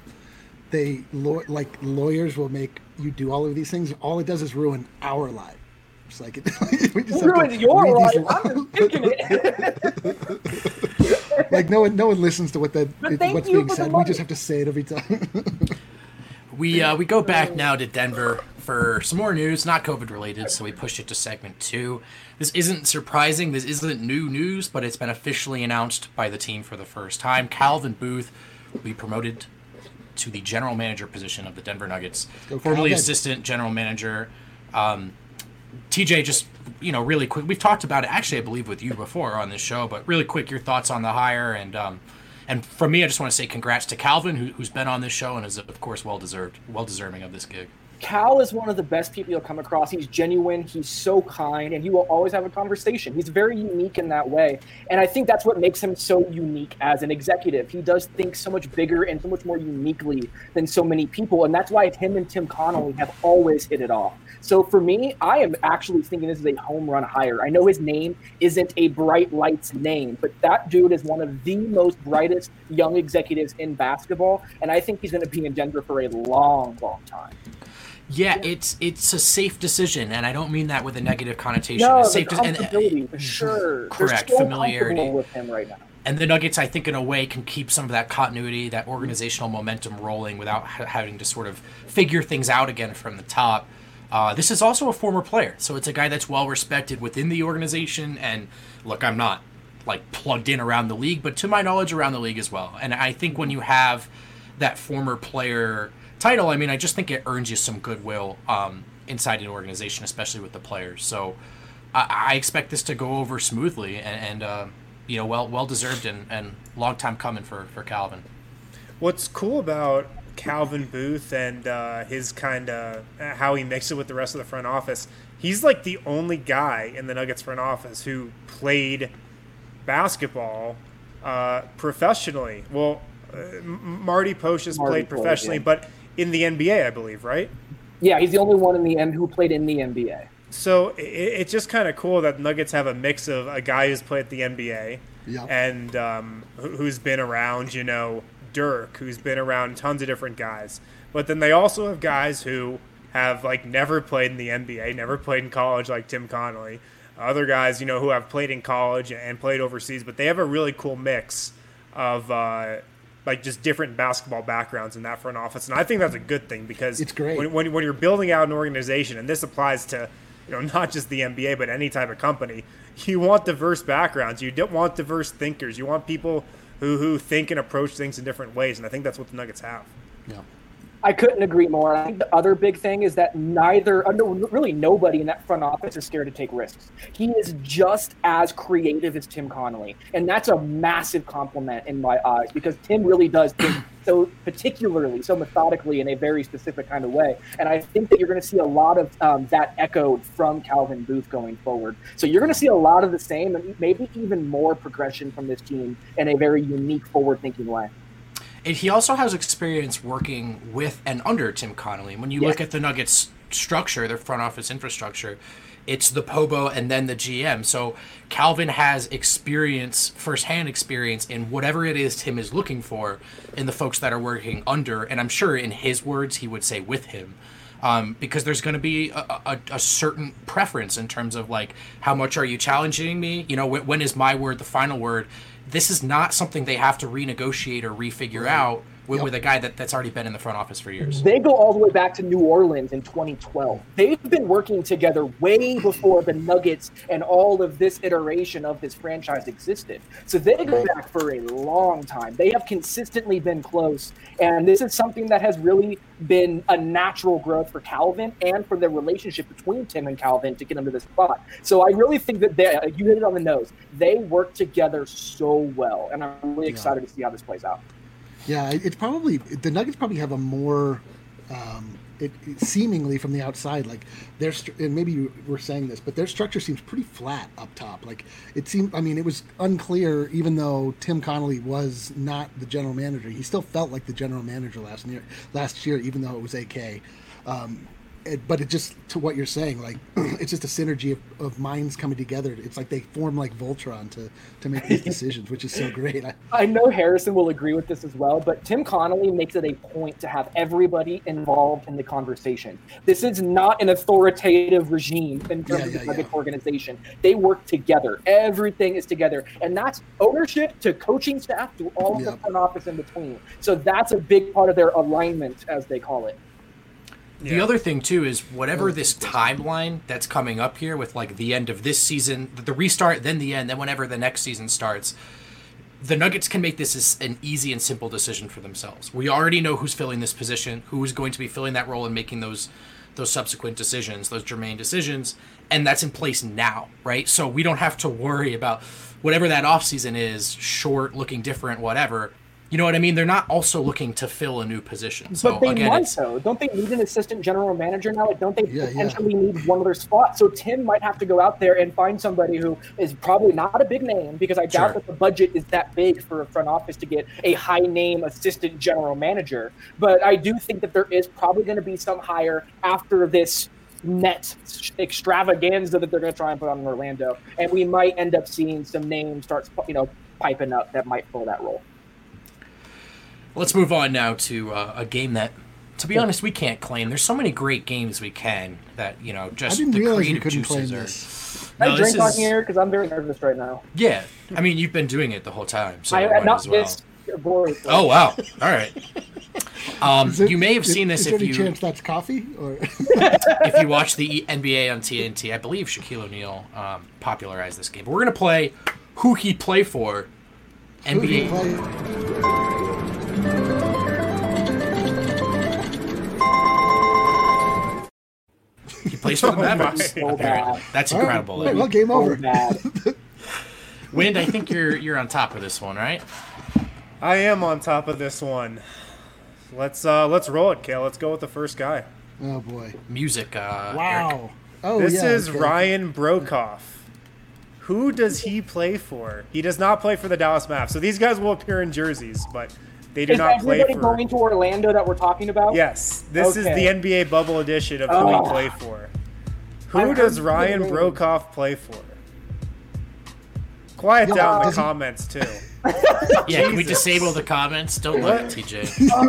lawyers will make you do all of these things. All it does is ruin our life. It's like we just ruined your life. I'm thinking it. Like no one listens to what's being said. We just have to say it every time. We go back now to Denver for some more news, not COVID related, so we pushed it to segment 2. This isn't surprising. This isn't new news, but it's been officially announced by the team for the first time. Calvin Booth will be promoted to the general manager position of the Denver Nuggets, formerly assistant general manager. TJ, just, really quick, we've talked about it, actually, I believe, with you before on this show, but really quick, your thoughts on the hire, and from me, I just want to say congrats to Calvin, who's been on this show and is, of course, well-deserving of this gig. Cal is one of the best people you'll come across. He's genuine, he's so kind, and he will always have a conversation. He's very unique in that way, and I think that's what makes him so unique as an executive. He does think so much bigger and so much more uniquely than so many people, and that's why him and Tim Connolly have always hit it off. So for me, I am actually thinking this is a home run hire. I know his name isn't a bright lights name, but that dude is one of the most brightest young executives in basketball, and I think he's going to be in Denver for a long, long time. Yeah, it's a safe decision, and I don't mean that with a negative connotation. No, it's safe comfortability, for sure. Correct, They're so familiarity comfortable with him right now. And the Nuggets, I think, in a way, can keep some of that continuity, that organizational momentum rolling without having to sort of figure things out again from the top. This is also a former player, so it's a guy that's well respected within the organization. And look, I'm not like plugged in around the league, but to my knowledge, around the league as well. And I think when you have that former player title, I mean, I just think it earns you some goodwill inside an organization, especially with the players. So I expect this to go over smoothly and well deserved and long time coming for Calvin. What's cool about Calvin Booth and his kind of how he mixes it with the rest of the front office, he's like the only guy in the Nuggets front office who played basketball professionally. Well, Marty Posh has played professionally, but in the NBA, I believe, right? Yeah, he's the only one in the end who played in the NBA. So it's just kind of cool that Nuggets have a mix of a guy who's played at the NBA and who's been around, Dirk, who's been around tons of different guys. But then they also have guys who have like never played in the NBA, never played in college, like Tim Connolly. Other guys, who have played in college and played overseas, but they have a really cool mix of like just different basketball backgrounds in that front office. And I think that's a good thing because it's great. When you're building out an organization, and this applies to not just the NBA, but any type of company, you want diverse backgrounds. You don't want diverse thinkers. You want people who think and approach things in different ways, and I think that's what the Nuggets have. Yeah. I couldn't agree more. I think the other big thing is that really nobody in that front office is scared to take risks. He is just as creative as Tim Connolly, and that's a massive compliment in my eyes because Tim really does think so particularly, so methodically in a very specific kind of way. And I think that you're going to see a lot of that echoed from Calvin Booth going forward. So you're going to see a lot of the same and maybe even more progression from this team in a very unique, forward-thinking way. And he also has experience working with and under Tim Connolly. When you look at the Nuggets structure, their front office infrastructure, it's the Pobo and then the GM. So Calvin has firsthand experience in whatever it is Tim is looking for in the folks that are working under. And I'm sure in his words, he would say with him. Because there's going to be a certain preference in terms of like, how much are you challenging me? When is my word the final word? This is not something they have to renegotiate or refigure out with a guy that's already been in the front office for years. They go all the way back to New Orleans in 2012. They've been working together way before the Nuggets and all of this iteration of this franchise existed. So they go back for a long time. They have consistently been close, and this is something that has really been a natural growth for Calvin and for the relationship between Tim and Calvin to get him to this spot. So I really think that you hit it on the nose. They work together so well, and I'm really excited to see how this plays out. Yeah, it's probably the Nuggets probably have a more seemingly from the outside, like and maybe you were saying this, but their structure seems pretty flat up top. Like it seemed, it was unclear, even though Tim Connolly was not the general manager, he still felt like the general manager last year, even though it was AK. But it just, to what you're saying, like it's just a synergy of minds coming together. It's like they form like Voltron to make these decisions, which is so great. I know Harrison will agree with this as well, but Tim Connolly makes it a point to have everybody involved in the conversation. This is not an authoritative regime in terms of the Nuggets organization. They work together. Everything is together. And that's ownership to coaching staff to all of the front office in between. So that's a big part of their alignment, as they call it. The other thing, too, is whatever this timeline that's coming up here with, like, the end of this season, the restart, then the end, then whenever the next season starts, the Nuggets can make this as an easy and simple decision for themselves. We already know who's filling this position, who is going to be filling that role and making those subsequent decisions, those germane decisions, and that's in place now, right? So we don't have to worry about whatever that offseason is, short, looking different, whatever. You know what I mean? They're not also looking to fill a new position. So, but they might, though. Don't they need an assistant general manager now? Like, don't they potentially need one other spot? So Tim might have to go out there and find somebody who is probably not a big name, because I doubt that the budget is that big for a front office to get a high-name assistant general manager. But I do think that there is probably going to be some hire after this net extravaganza that they're going to try and put on Orlando. And we might end up seeing some names start, piping up that might fill that role. Let's move on now to a game that, to be honest, we can't claim. There's so many great games we can that, just the creative juices are. I drink on here because I'm very nervous right now. Yeah, I mean, you've been doing it the whole time, so I might not as well. this voice. Oh wow! All right. You may have seen this is if there any you chance that's coffee or if you watch the NBA on TNT. I believe Shaquille O'Neal popularized this game. But we're gonna play Who He Play For. NBA. He plays for the Mavericks. So bad. That's incredible. All right, well, game over. So bad. Wind, I think you're on top of this one, right? I am on top of this one. Let's roll it, Kale. Let's go with the first guy. Oh boy! Music. Eric. Wow. Oh, This yeah, is okay. Ryan Brokoff. Who does he play for? He does not play for the Dallas Mavs. So these guys will appear in jerseys, but they do Is not play everybody for. going to Orlando that we're talking about? Yes, this is Okay. the NBA bubble edition of who he play for. Who I does heard Ryan the name. Brokoff play for? Quiet Yeah, down in the does he- comments too. Yeah, can we Jesus. disable the comments? Don't look at TJ.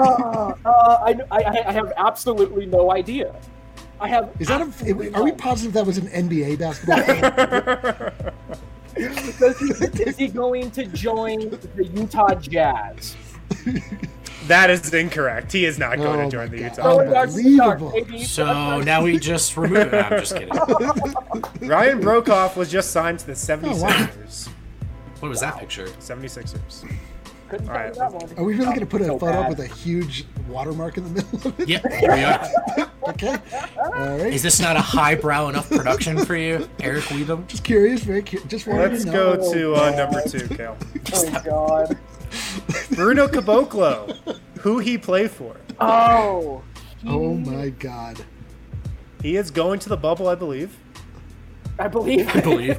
I have absolutely no idea. I have. Is that are we positive that was an NBA basketball team? Is he going to join the Utah Jazz? That is incorrect. He is not going Oh to join my the God. Utah. Going dark to the dark, Unbelievable. baby. So now we just remove it. No, I'm just kidding. Ryan Brokoff was just signed to the 76ers. wow. What was that picture? 76ers. Couldn't All right, tell you that one. Are we really going to put a So photo up bad. with a huge watermark in the middle of it? Yep, here we are. Okay. All right. Is this not a highbrow enough production for you, Eric Weedham? Just curious, just wanted Let's to know. go to number 2, Kale. Oh God. Bruno Caboclo. Who he play for? Oh. Oh my God. He is going to the bubble, I believe. I believe. I believe.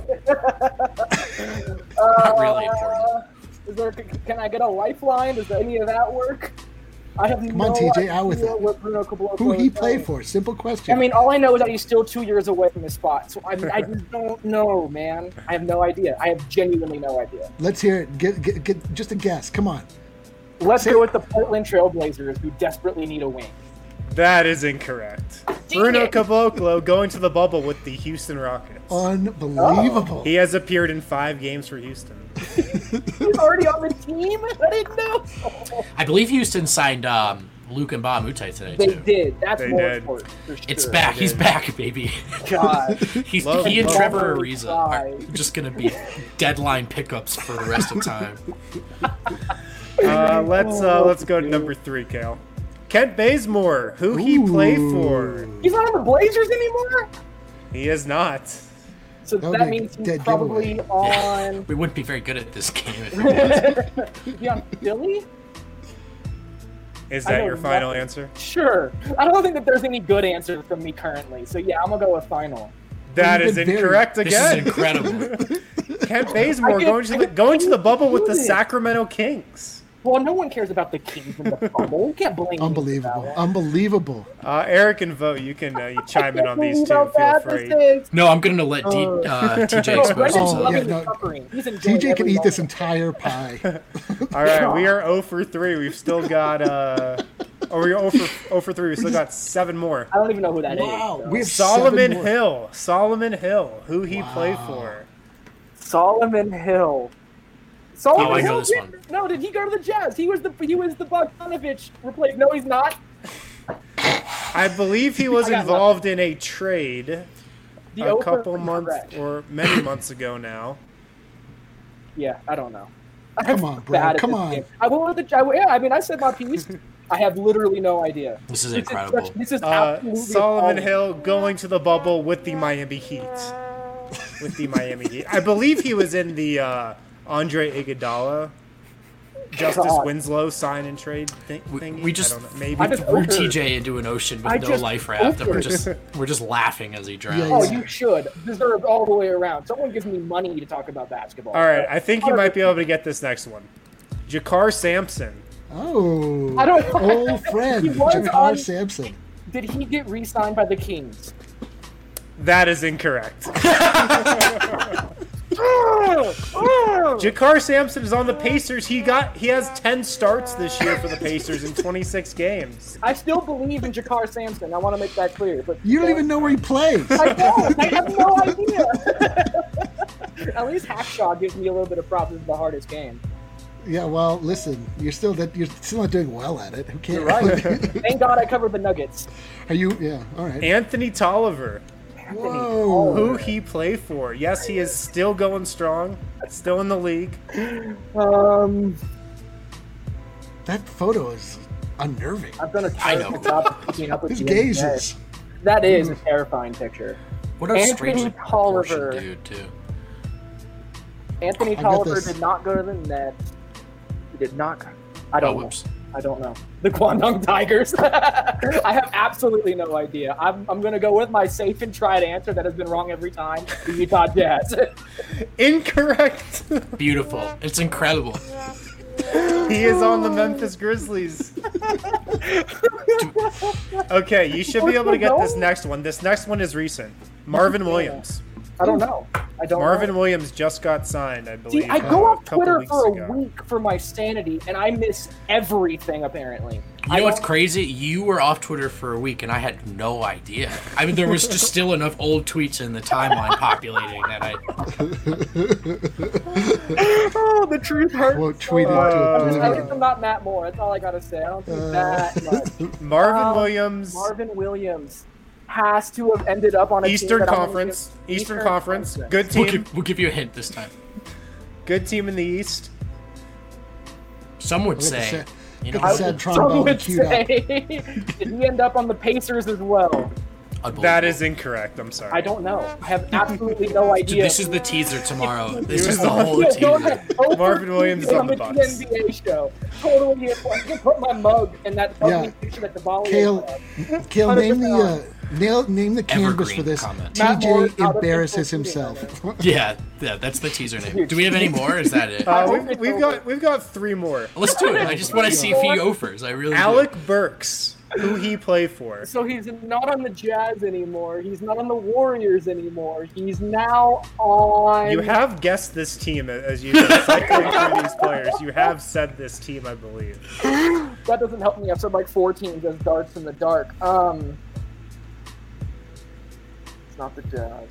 Not really important. Is there? Can I get a lifeline? Does any of that work? I have Come no on, TJ, idea out with it. what Bruno Caboclo Who he is play doing. for? Simple question. I mean, all I know is that he's still 2 years away from his spot. So I just don't know, man. I have no idea. I have genuinely no idea. Let's hear it. Get just a guess. Come on. Let's go with the Portland Trailblazers, who desperately need a wing. That is incorrect. Bruno Caboclo going to the bubble with the Houston Rockets. Unbelievable. He has appeared in 5 games for Houston. He's already on the team? I didn't know. I believe Houston signed Luke and Ba Mutai today, They too. did. That's They more did. important. For sure. It's back. He's back, baby. God. He Love and him. Trevor Oh, Ariza are God. just going to be deadline pickups for the rest of time. Let's go to number 3, Kale. Kent Bazemore. Who he play for? He's not on the Blazers anymore? He is not. So That would that be a means he's dead probably giveaway. on. We wouldn't be very good at this game. If it was. Is he on Philly? Is I that know your final nothing. answer? Sure. I don't think that there's any good answer from me currently. So yeah, I'm gonna go with final. That You've is been very- incorrect This again. is incredible. Kent Bazemore going to the bubble with the Sacramento Kings. Well, no one cares about the Kings in the bubble. You can't blame me for Unbelievable. that one. Unbelievable. Eric and Vote, you can you chime in on these two. About Feel that, free. this is- No, I'm going to let TJ expose Brendan's Oh, himself. loving yeah, the no. suffering. He's enjoying TJ can every eat this moment. entire pie. All right, we are 0 for 3. We've still got we're 0 for 3. We've still got 7 more. I don't even know who that is. Wow. so. We have Solomon 7 more. Hill. Solomon Hill. Who he play Wow. for? Solomon Hill. Solomon Oh, I know Hill this did- one. No, did he go to the Jazz? He was the Bogdanovich replacement. No, he's not. I believe he was I got involved in a trade The a Oprah couple was months correct. or many months ago now. Yeah, I don't know. Come on, bro. Bad at Come this on. game. I went with the. Yeah, I mean, I said my piece. I have literally no idea. This is incredible. This is absolutely Solomon appalling. Hill going to the bubble with the Miami Heat. With the Miami Heat. I believe he was in the Andre Iguodala, Justice God. Winslow sign and trade thing. We just I don't know. Maybe. I just threw over- TJ into an ocean I with no just life raft, and over- we're just laughing as he drowns. Oh, you should. Deserved all the way around. Someone gives me money to talk about basketball. All right, I think you might be able to get this next one. Jakar Sampson. Oh. I don't know. Old friend, He was Jakar on- Sampson. Did he get re-signed by the Kings? That is incorrect. Jakar Sampson is on the Pacers. He has 10 starts this year for the Pacers in 26 games. I still believe in Jakar Sampson. I want to make that clear. But You don't even know where he plays. I don't. I have no idea. At least Hackshaw gives me a little bit of props. This is the hardest game. Yeah, well, listen, you're still not doing well at it. Who cares? You're right. Thank God I covered the Nuggets. Are you? Yeah, all right. Anthony Tolliver. Whoa. Who he play for? Yes, he is still going strong. Still in the league. That photo is unnerving. I've done a terrible job of keeping up with His the gazes. NBA. That is a terrifying picture. What a Anthony strangely Tolliver. proportioned dude, too. Anthony I got Tolliver this. did not go to the Nets. He did not go. I don't know. Whoops. I don't know. The Guangdong Tigers. I have absolutely no idea. I'm going to go with my safe and tried answer that has been wrong every time. The Utah Jazz. Incorrect. Beautiful. It's incredible. He is on the Memphis Grizzlies. Okay, you should be able to get this next one. This next one is recent. Marvin Williams. I don't know. Marvin Williams just got signed, I believe. See, I go off a couple Twitter weeks for a ago. week for my sanity, and I miss everything, apparently. You know what's crazy? You were off Twitter for a week, and I had no idea. I mean, there was just still enough old tweets in the timeline populating that I... Oh, the truth hurts. Won't tweet it to At least oblivion. I'm not Matt Moore. That's all I got to say. I don't think that much. Marvin Williams. Marvin Williams has to have ended up on a Eastern team that Conference. Eastern Conference. Good team. We'll give you a hint this time. Good team in the East. Some would Look at say... the You Look know, at the sad Some trombone would queued up. say, did he end up on the Pacers as well? That is incorrect. I'm sorry. I don't know. I have absolutely no Dude, idea. this is the teaser tomorrow. This He is was the on- whole Yeah, go teaser. ahead. Over Marvin Williams is on the Bucks. NBA show. Totally. I can put my mug in that ugly Yeah. picture at the volley. Kale, name the 100% name the canvas Evergreen for this. comment. Matt Moore's TJ out of embarrasses control himself. Yeah, that's the teaser name. Do we have any more? Or is that it? We've got three more. Let's do it. I just want to see if he offers. I really Alec do. Burks, who he play for. So he's not on the Jazz anymore. He's not on the Warriors anymore. He's now on. You have guessed this team as you've been cycling through these players. You have said this team, I believe. That doesn't help me. I've said like 4 teams as darts in the dark. It's not the Jazz.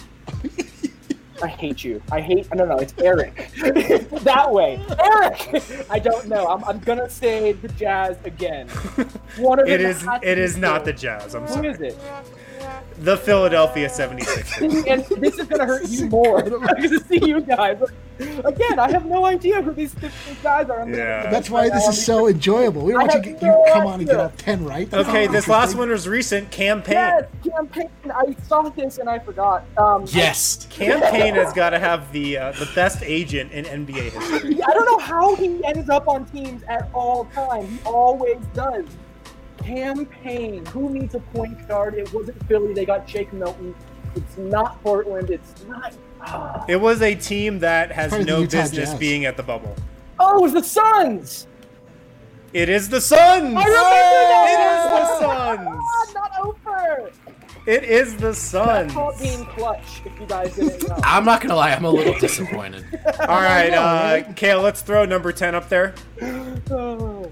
I hate you. No, it's Eric. That way. Eric! I don't know. I'm going to say the Jazz again. One of It them is has to it be is not the good. Jazz. I'm Who sorry. is it? The Philadelphia 76ers. And this is going to hurt you more. I'm going to see you guys. Again, I have no idea who these guys are. Yeah. That's why this is so enjoyable. We don't I want you have to no come on and get idea. all 10 right. That's Okay, not this last interesting. one was recent. Campaign. Yes, Campaign. I saw this and I forgot. Yes. Campaign has got to have the best agent in NBA history. I don't know how he ends up on teams at all time. He always does. Campaign. Who needs a point guard? It wasn't Philly. They got Jake Milton. It's not Portland. It's not. It was a team that has Probably the no Utah business Jazz. being at the bubble. Oh, it was the Suns. It is the Suns. I remember It that. is the Suns. Not over. It is the That's Suns. called being clutch. If you guys didn't know. I'm not gonna lie, I'm a little disappointed. All right, Kale, let's throw number 10 up there. Oh.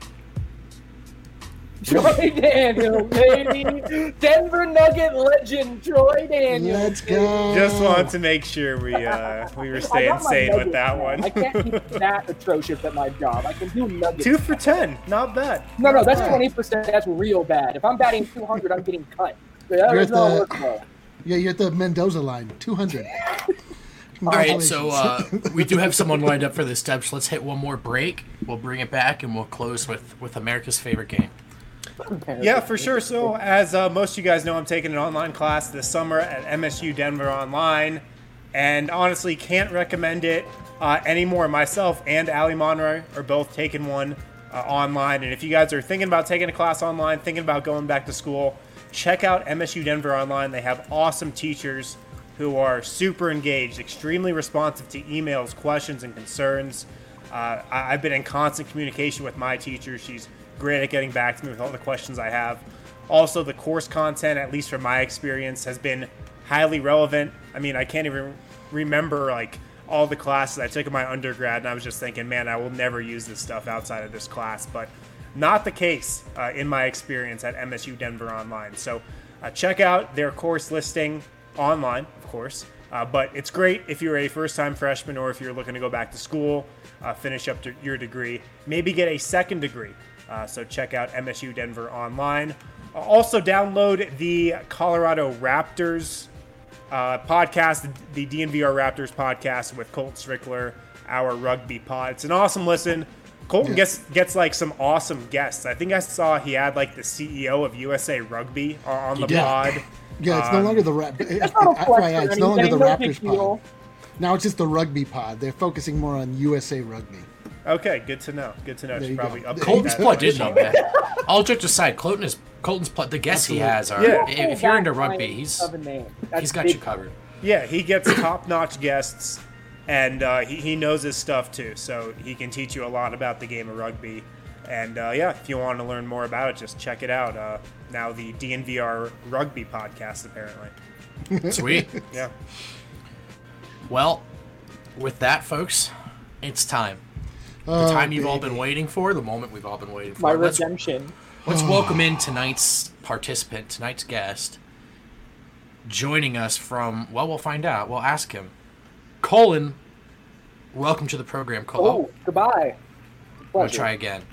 Troy Daniels, baby. Denver Nugget legend Troy Daniels. Let's go. Just wanted to make sure we were I staying got my sane with Nuggets, that man. one. I can't be that atrocious at my job. I can do Nuggets. 2 for 10, not bad. No, that's 20%. That's real bad. If I'm batting 200, I'm getting cut. That You're is at not the- workable. Yeah, you're at the Mendoza line. 200. All right, so we do have someone lined up for this step, so let's hit one more break. We'll bring it back, and we'll close with America's favorite game. Yeah, for sure. So, as most of you guys know, I'm taking an online class this summer at MSU Denver Online, and honestly, can't recommend it anymore. Myself and Ali Monroy are both taking one online, and if you guys are thinking about taking a class online, thinking about going back to school, check out MSU Denver Online. They have awesome teachers who are super engaged, extremely responsive to emails, questions, and concerns. I've been in constant communication with my teacher. She's great at getting back to me with all the questions I have. Also, the course content, at least from my experience, has been highly relevant. I mean, I can't even remember like all the classes I took in my undergrad, and I was just thinking, man, I will never use this stuff outside of this class. But not the case in my experience at MSU Denver Online. So check out their course listing online, of course. But it's great if you're a first-time freshman or if you're looking to go back to school, finish up your degree, maybe get a second degree. So check out MSU Denver Online. Also download the Colorado Raptors podcast, the DNVR Raptors podcast with Colton Strickler, our rugby pod. It's an awesome listen. Colton gets like some awesome guests. I think I saw he had like the CEO of USA Rugby on the pod. Yeah, it's no longer the FYI, it's no longer the Raptors pod. Now it's just the rugby pod. They're focusing more on USA Rugby. Okay, good to know. Good to know. Should probably update Colton's that. plugged in though, man. All jokes aside, Colton's the guests he has are. Yeah. If you're into rugby, he's got you covered. Yeah, he gets top-notch guests, and he knows his stuff too. So he can teach you a lot about the game of rugby. And if you want to learn more about it, just check it out. Now the DNVR Rugby podcast, apparently. Sweet. Yeah. Well, with that, folks, it's time. The time you've all been waiting for, the moment we've all been waiting for. My redemption. Let's welcome in tonight's participant, tonight's guest. Joining us from, well, we'll find out. We'll ask him. Colin, welcome to the program, Colin. Oh, goodbye. We'll try again.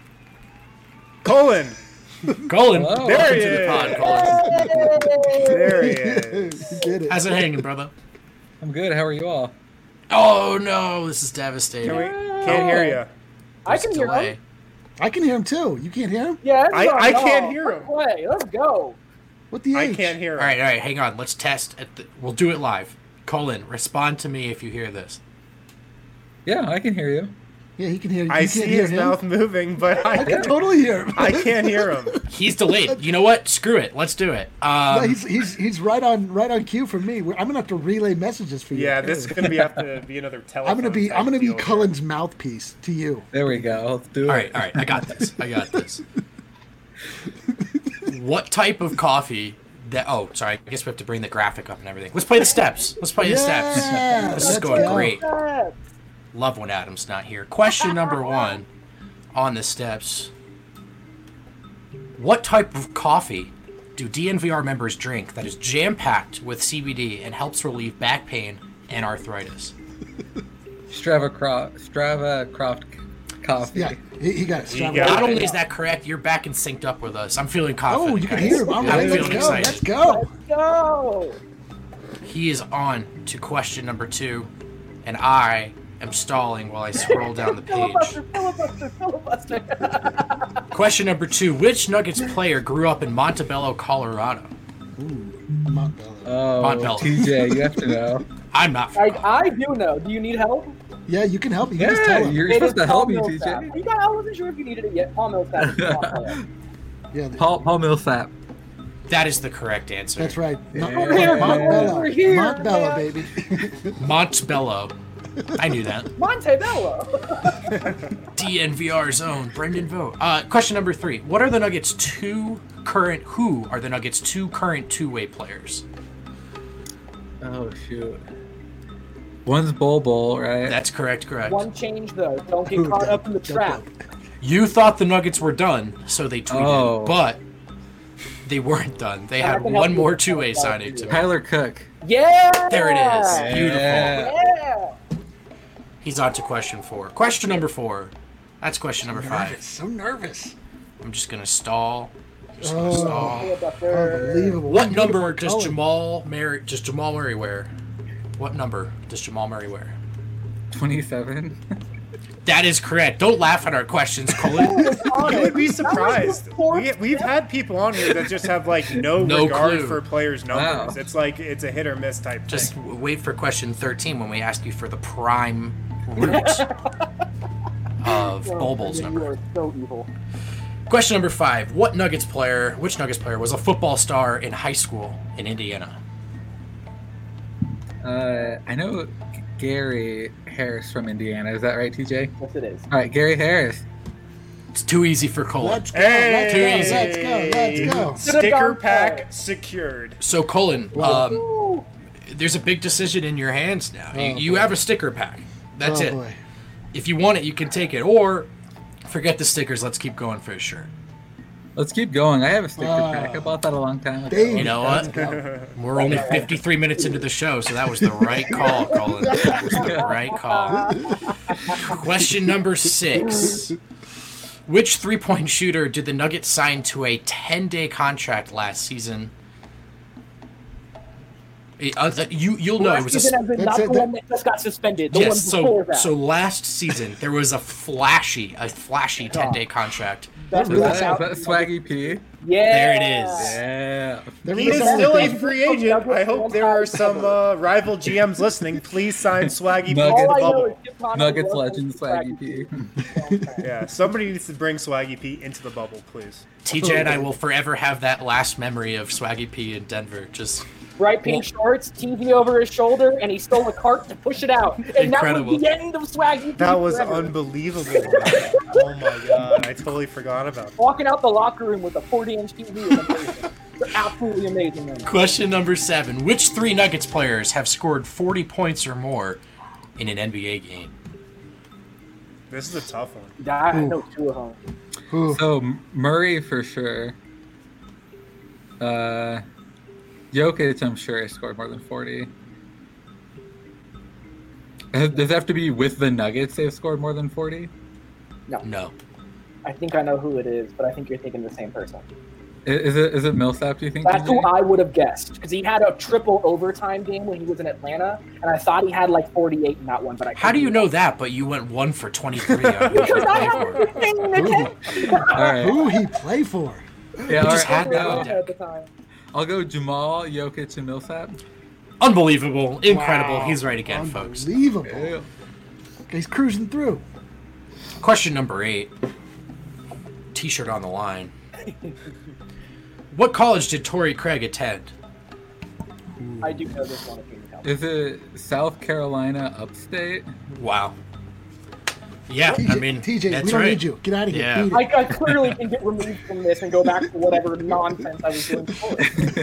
Colin! Colin, Hello. welcome to the pod, Colin. There he is. You did it. How's it hanging, brother? I'm good. How are you all? Oh, no, this is devastating. Can't hear you. I can hear Delay. him. I can hear him too. You can't hear him? Yeah, I can't hear him. Play. Let's go. What the I H? can't hear him. All right, hang on. Let's test. We'll do it live. Colin, respond to me if you hear this. Yeah, I can hear you. Yeah, he can hear you. I You see can't hear his him? mouth moving, but I can totally hear him. I can't hear him. He's delayed. You know what? Screw it. Let's do it. No, he's right on cue for me. I'm gonna have to relay messages for you. Yeah, this is gonna have to be another telephone. I'm gonna be deal. Cullen's mouthpiece to you. There we go. Let's do it. All right. I got this. What type of coffee? Oh, sorry. I guess we have to bring the graphic up and everything. Let's play the steps. This Yeah, is let's going go. great. Love when Adam's not here. Question number 1 on the steps. What type of coffee do DNVR members drink that is jam-packed with CBD and helps relieve back pain and arthritis? Strava Croft coffee. Yeah, he got it. He Strava. got Not it. only is that correct, you're back and synced up with us. I'm feeling confident. Oh, you can guys. hear him. All right, I'm let's feeling go. excited. Let's go. Go. He is on to question number 2, and I am stalling while I scroll down the page. Filibuster. Question number 2. Which Nuggets player grew up in Montebello, Colorado? Montbello. Oh, Montbello. TJ, you have to know. I'm not. I do know. Do you need help? Yeah, you can help. You can just tell Yeah, him. you're It supposed is to help me, Paul TJ. Millsap. I wasn't sure if you needed it yet. Paul Millsap. Yeah, Paul Millsap. That is the correct answer. that's right. Yeah. Montbello. Over here, Montbello, man. baby. Montebello. I knew that. Montebello. DNVR zone. Brendan Vogt. Question number 3. Who are the Nuggets' two current two-way players? Oh, shoot. One's Bol, right? That's correct. One change though. Don't get caught up in the trap. You thought the Nuggets were done, so they tweeted, Oh. but they weren't done. They I had can one help more you. two-way signing to make. Tyler Cook. Yeah. There it is. Beautiful. Yeah. He's on to question 4. Question number 4. That's question number 5. So nervous. I'm just gonna stall. Unbelievable. What number Beautiful does color. Jamal Murray wear? What number does Jamal Murray wear? 27. That is correct. Don't laugh at our questions, Colin. You would be surprised. We've had people on here that just have like no regard clue. for players' numbers. Wow. It's like it's a hit or miss type Just thing. wait for question 13 when we ask you for the prime root of Bulbul's You number. are so evil. Question number 5. Which Nuggets player was a football star in high school in Indiana? I know Gary Harris from Indiana. Is that right, TJ? Yes, it is. All right, Gary Harris. It's too easy for Colin. Let's go. Hey! Let's go. Let's go. Sticker pack secured. So Colin, there's a big decision in your hands now. You have a sticker pack. That's it. Boy. If you want it, you can take it. Or forget the stickers. Let's keep going for a shirt. Let's keep going. I have a sticker pack. I bought that a long time ago. Dang. You know what? We're only 53 minutes into the show, so that was the right call, Colin. That was the right call. Question number 6. Which three-point shooter did the Nuggets sign to a 10-day contract last season? You'll know. It was season, not the one that just got suspended. The one before that. So last season there was a flashy 10-day contract. Is that Swaggy P? Yeah. There it is. Yeah. He is still a free agent. I hope there are some rival GMs listening. Please sign Swaggy P to the bubble. Nuggets legend Swaggy P. Yeah, somebody needs to bring Swaggy P into the bubble, please. TJ and I will forever have that last memory of Swaggy P in Denver. Just bright pink shorts, TV over his shoulder, and he stole a cart to push it out. And Incredible. that was the end of Swaggy P. That was forever. unbelievable. Oh my god, I totally forgot about that. Walking out the locker room with a 40-inch TV was amazing. It's absolutely amazing. Man. question number 7. Which 3 Nuggets players have scored 40 points or more in an NBA game? This is a tough one. I know 2 of them. So Murray for sure. Jokic, I'm sure, has scored more than 40. Does it have to be with the Nuggets they've scored more than 40? No. I think I know who it is, but I think you're thinking the same person. Is it Millsap, do you think? That's TJ? who I would have guessed, because he had a triple overtime game when he was in Atlanta, and I thought he had like 48 in that one. But How do you know that? But you went 1 for 23 on Because I have who a thing in the tent. All right. Who he play for? Yeah, all just right, had that. At the time. I'll go Jamal, Jokic, and Millsap. Unbelievable. Incredible. Wow. He's right again, folks. Unbelievable. Yeah. He's cruising through. Question number 8. T-shirt on the line. What college did Torrey Craig attend? I do know this one if you can tell me. Is it South Carolina upstate? Wow. Yeah, TJ, I mean, TJ, that's we don't right. need you. Get out of here. Yeah. Beat it. I clearly can get removed from this and go back to whatever nonsense I was doing before.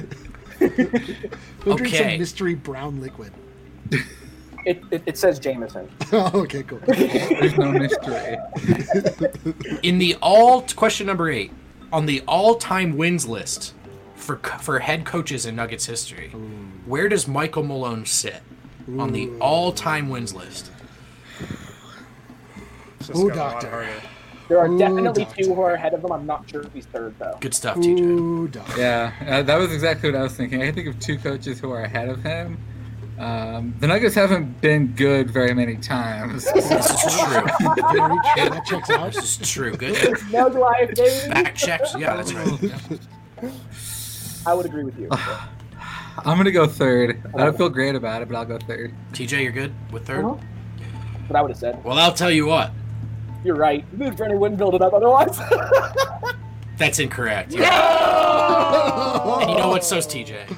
Go drink Okay. some mystery brown liquid. It says Jameson. Oh, okay, cool. There's no mystery. In the question number 8, on the all-time wins list for head coaches in Nuggets history, where does Michael Malone sit on the all-time wins list? It's just Ooh, got a lot doctor. harder. There are Ooh, definitely doctor. 2 who are ahead of him. I'm not sure if he's third, though. Good stuff, TJ. Ooh, dog. Yeah, that was exactly what I was thinking. I can think of 2 coaches who are ahead of him. The Nuggets haven't been good very many times. This is true. Very true. That checks out. This is true. Good. No life, baby. Back checks. Yeah, that's right. Yeah. I would agree with you. I'm going to go third. I don't feel great about it, but I'll go third. TJ, you're good with third? Uh-huh. What I would have said. Well, I'll tell you what. You're right. Bernie wouldn't build it up otherwise. That's incorrect. Yeah. And you know what? So's TJ.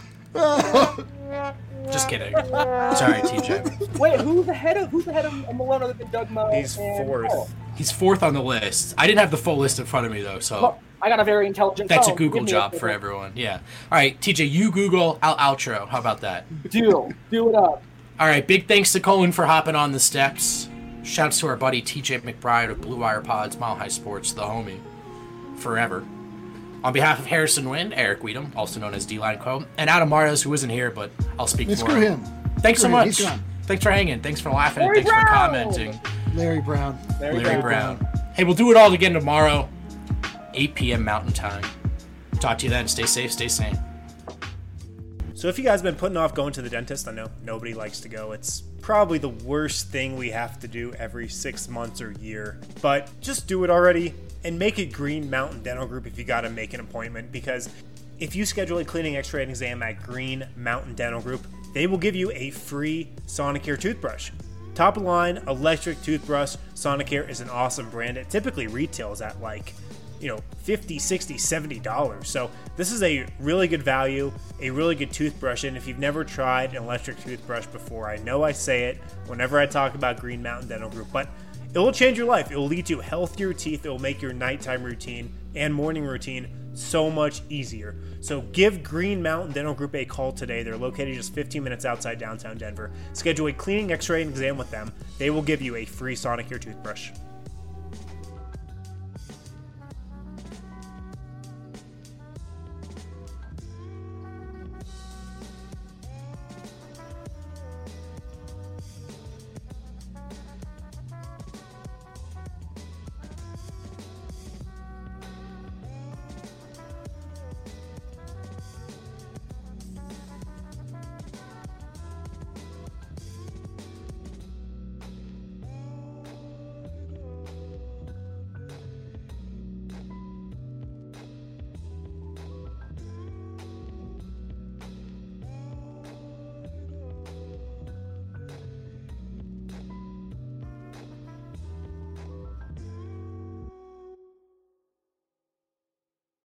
Just kidding. Sorry, TJ. Wait, who's ahead of Malone other than Doug Moe? He's and 4th. Paul? He's 4th on the list. I didn't have the full list in front of me, though, so Well, I got a very intelligent that's a phone. Google Give me job a for everyone. Yeah. All right, TJ, you Google, I'll outro. How about that? Deal. Do it up. All right, big thanks to Colin for hopping on the steps. Shouts to our buddy TJ McBride of Blue Wire Pods, Mile High Sports, the homie, forever. On behalf of Harrison Wind, Eric Weedham, also known as D-Line Co., and Adam Marios, who isn't here, but I'll speak Let's for screw him. him. Thanks so Screw him. much. He's gone. Thanks for hanging. Thanks for laughing. Larry and thanks for Brown. commenting. Larry Brown. Larry Brown. Hey, we'll do it all again tomorrow, 8 p.m. Mountain Time. Talk to you then. Stay safe. Stay sane. So if you guys have been putting off going to the dentist, I know nobody likes to go. It's probably the worst thing we have to do every 6 months or year. But just do it already and make it Green Mountain Dental Group if you got to make an appointment, because if you schedule a cleaning, x-ray, and exam at Green Mountain Dental Group, they will give you a free Sonicare toothbrush. Top of the line electric toothbrush. Sonicare is an awesome brand. It typically retails at like, $50, $60, $70. So this is a really good value, a really good toothbrush. And if you've never tried an electric toothbrush before, I know I say it whenever I talk about Green Mountain Dental Group, but it will change your life. It will lead to healthier teeth. It will make your nighttime routine and morning routine so much easier. So give Green Mountain Dental Group a call today. They're located just 15 minutes outside downtown Denver. Schedule a cleaning, x-ray, and exam with them. They will give you a free Sonicare toothbrush.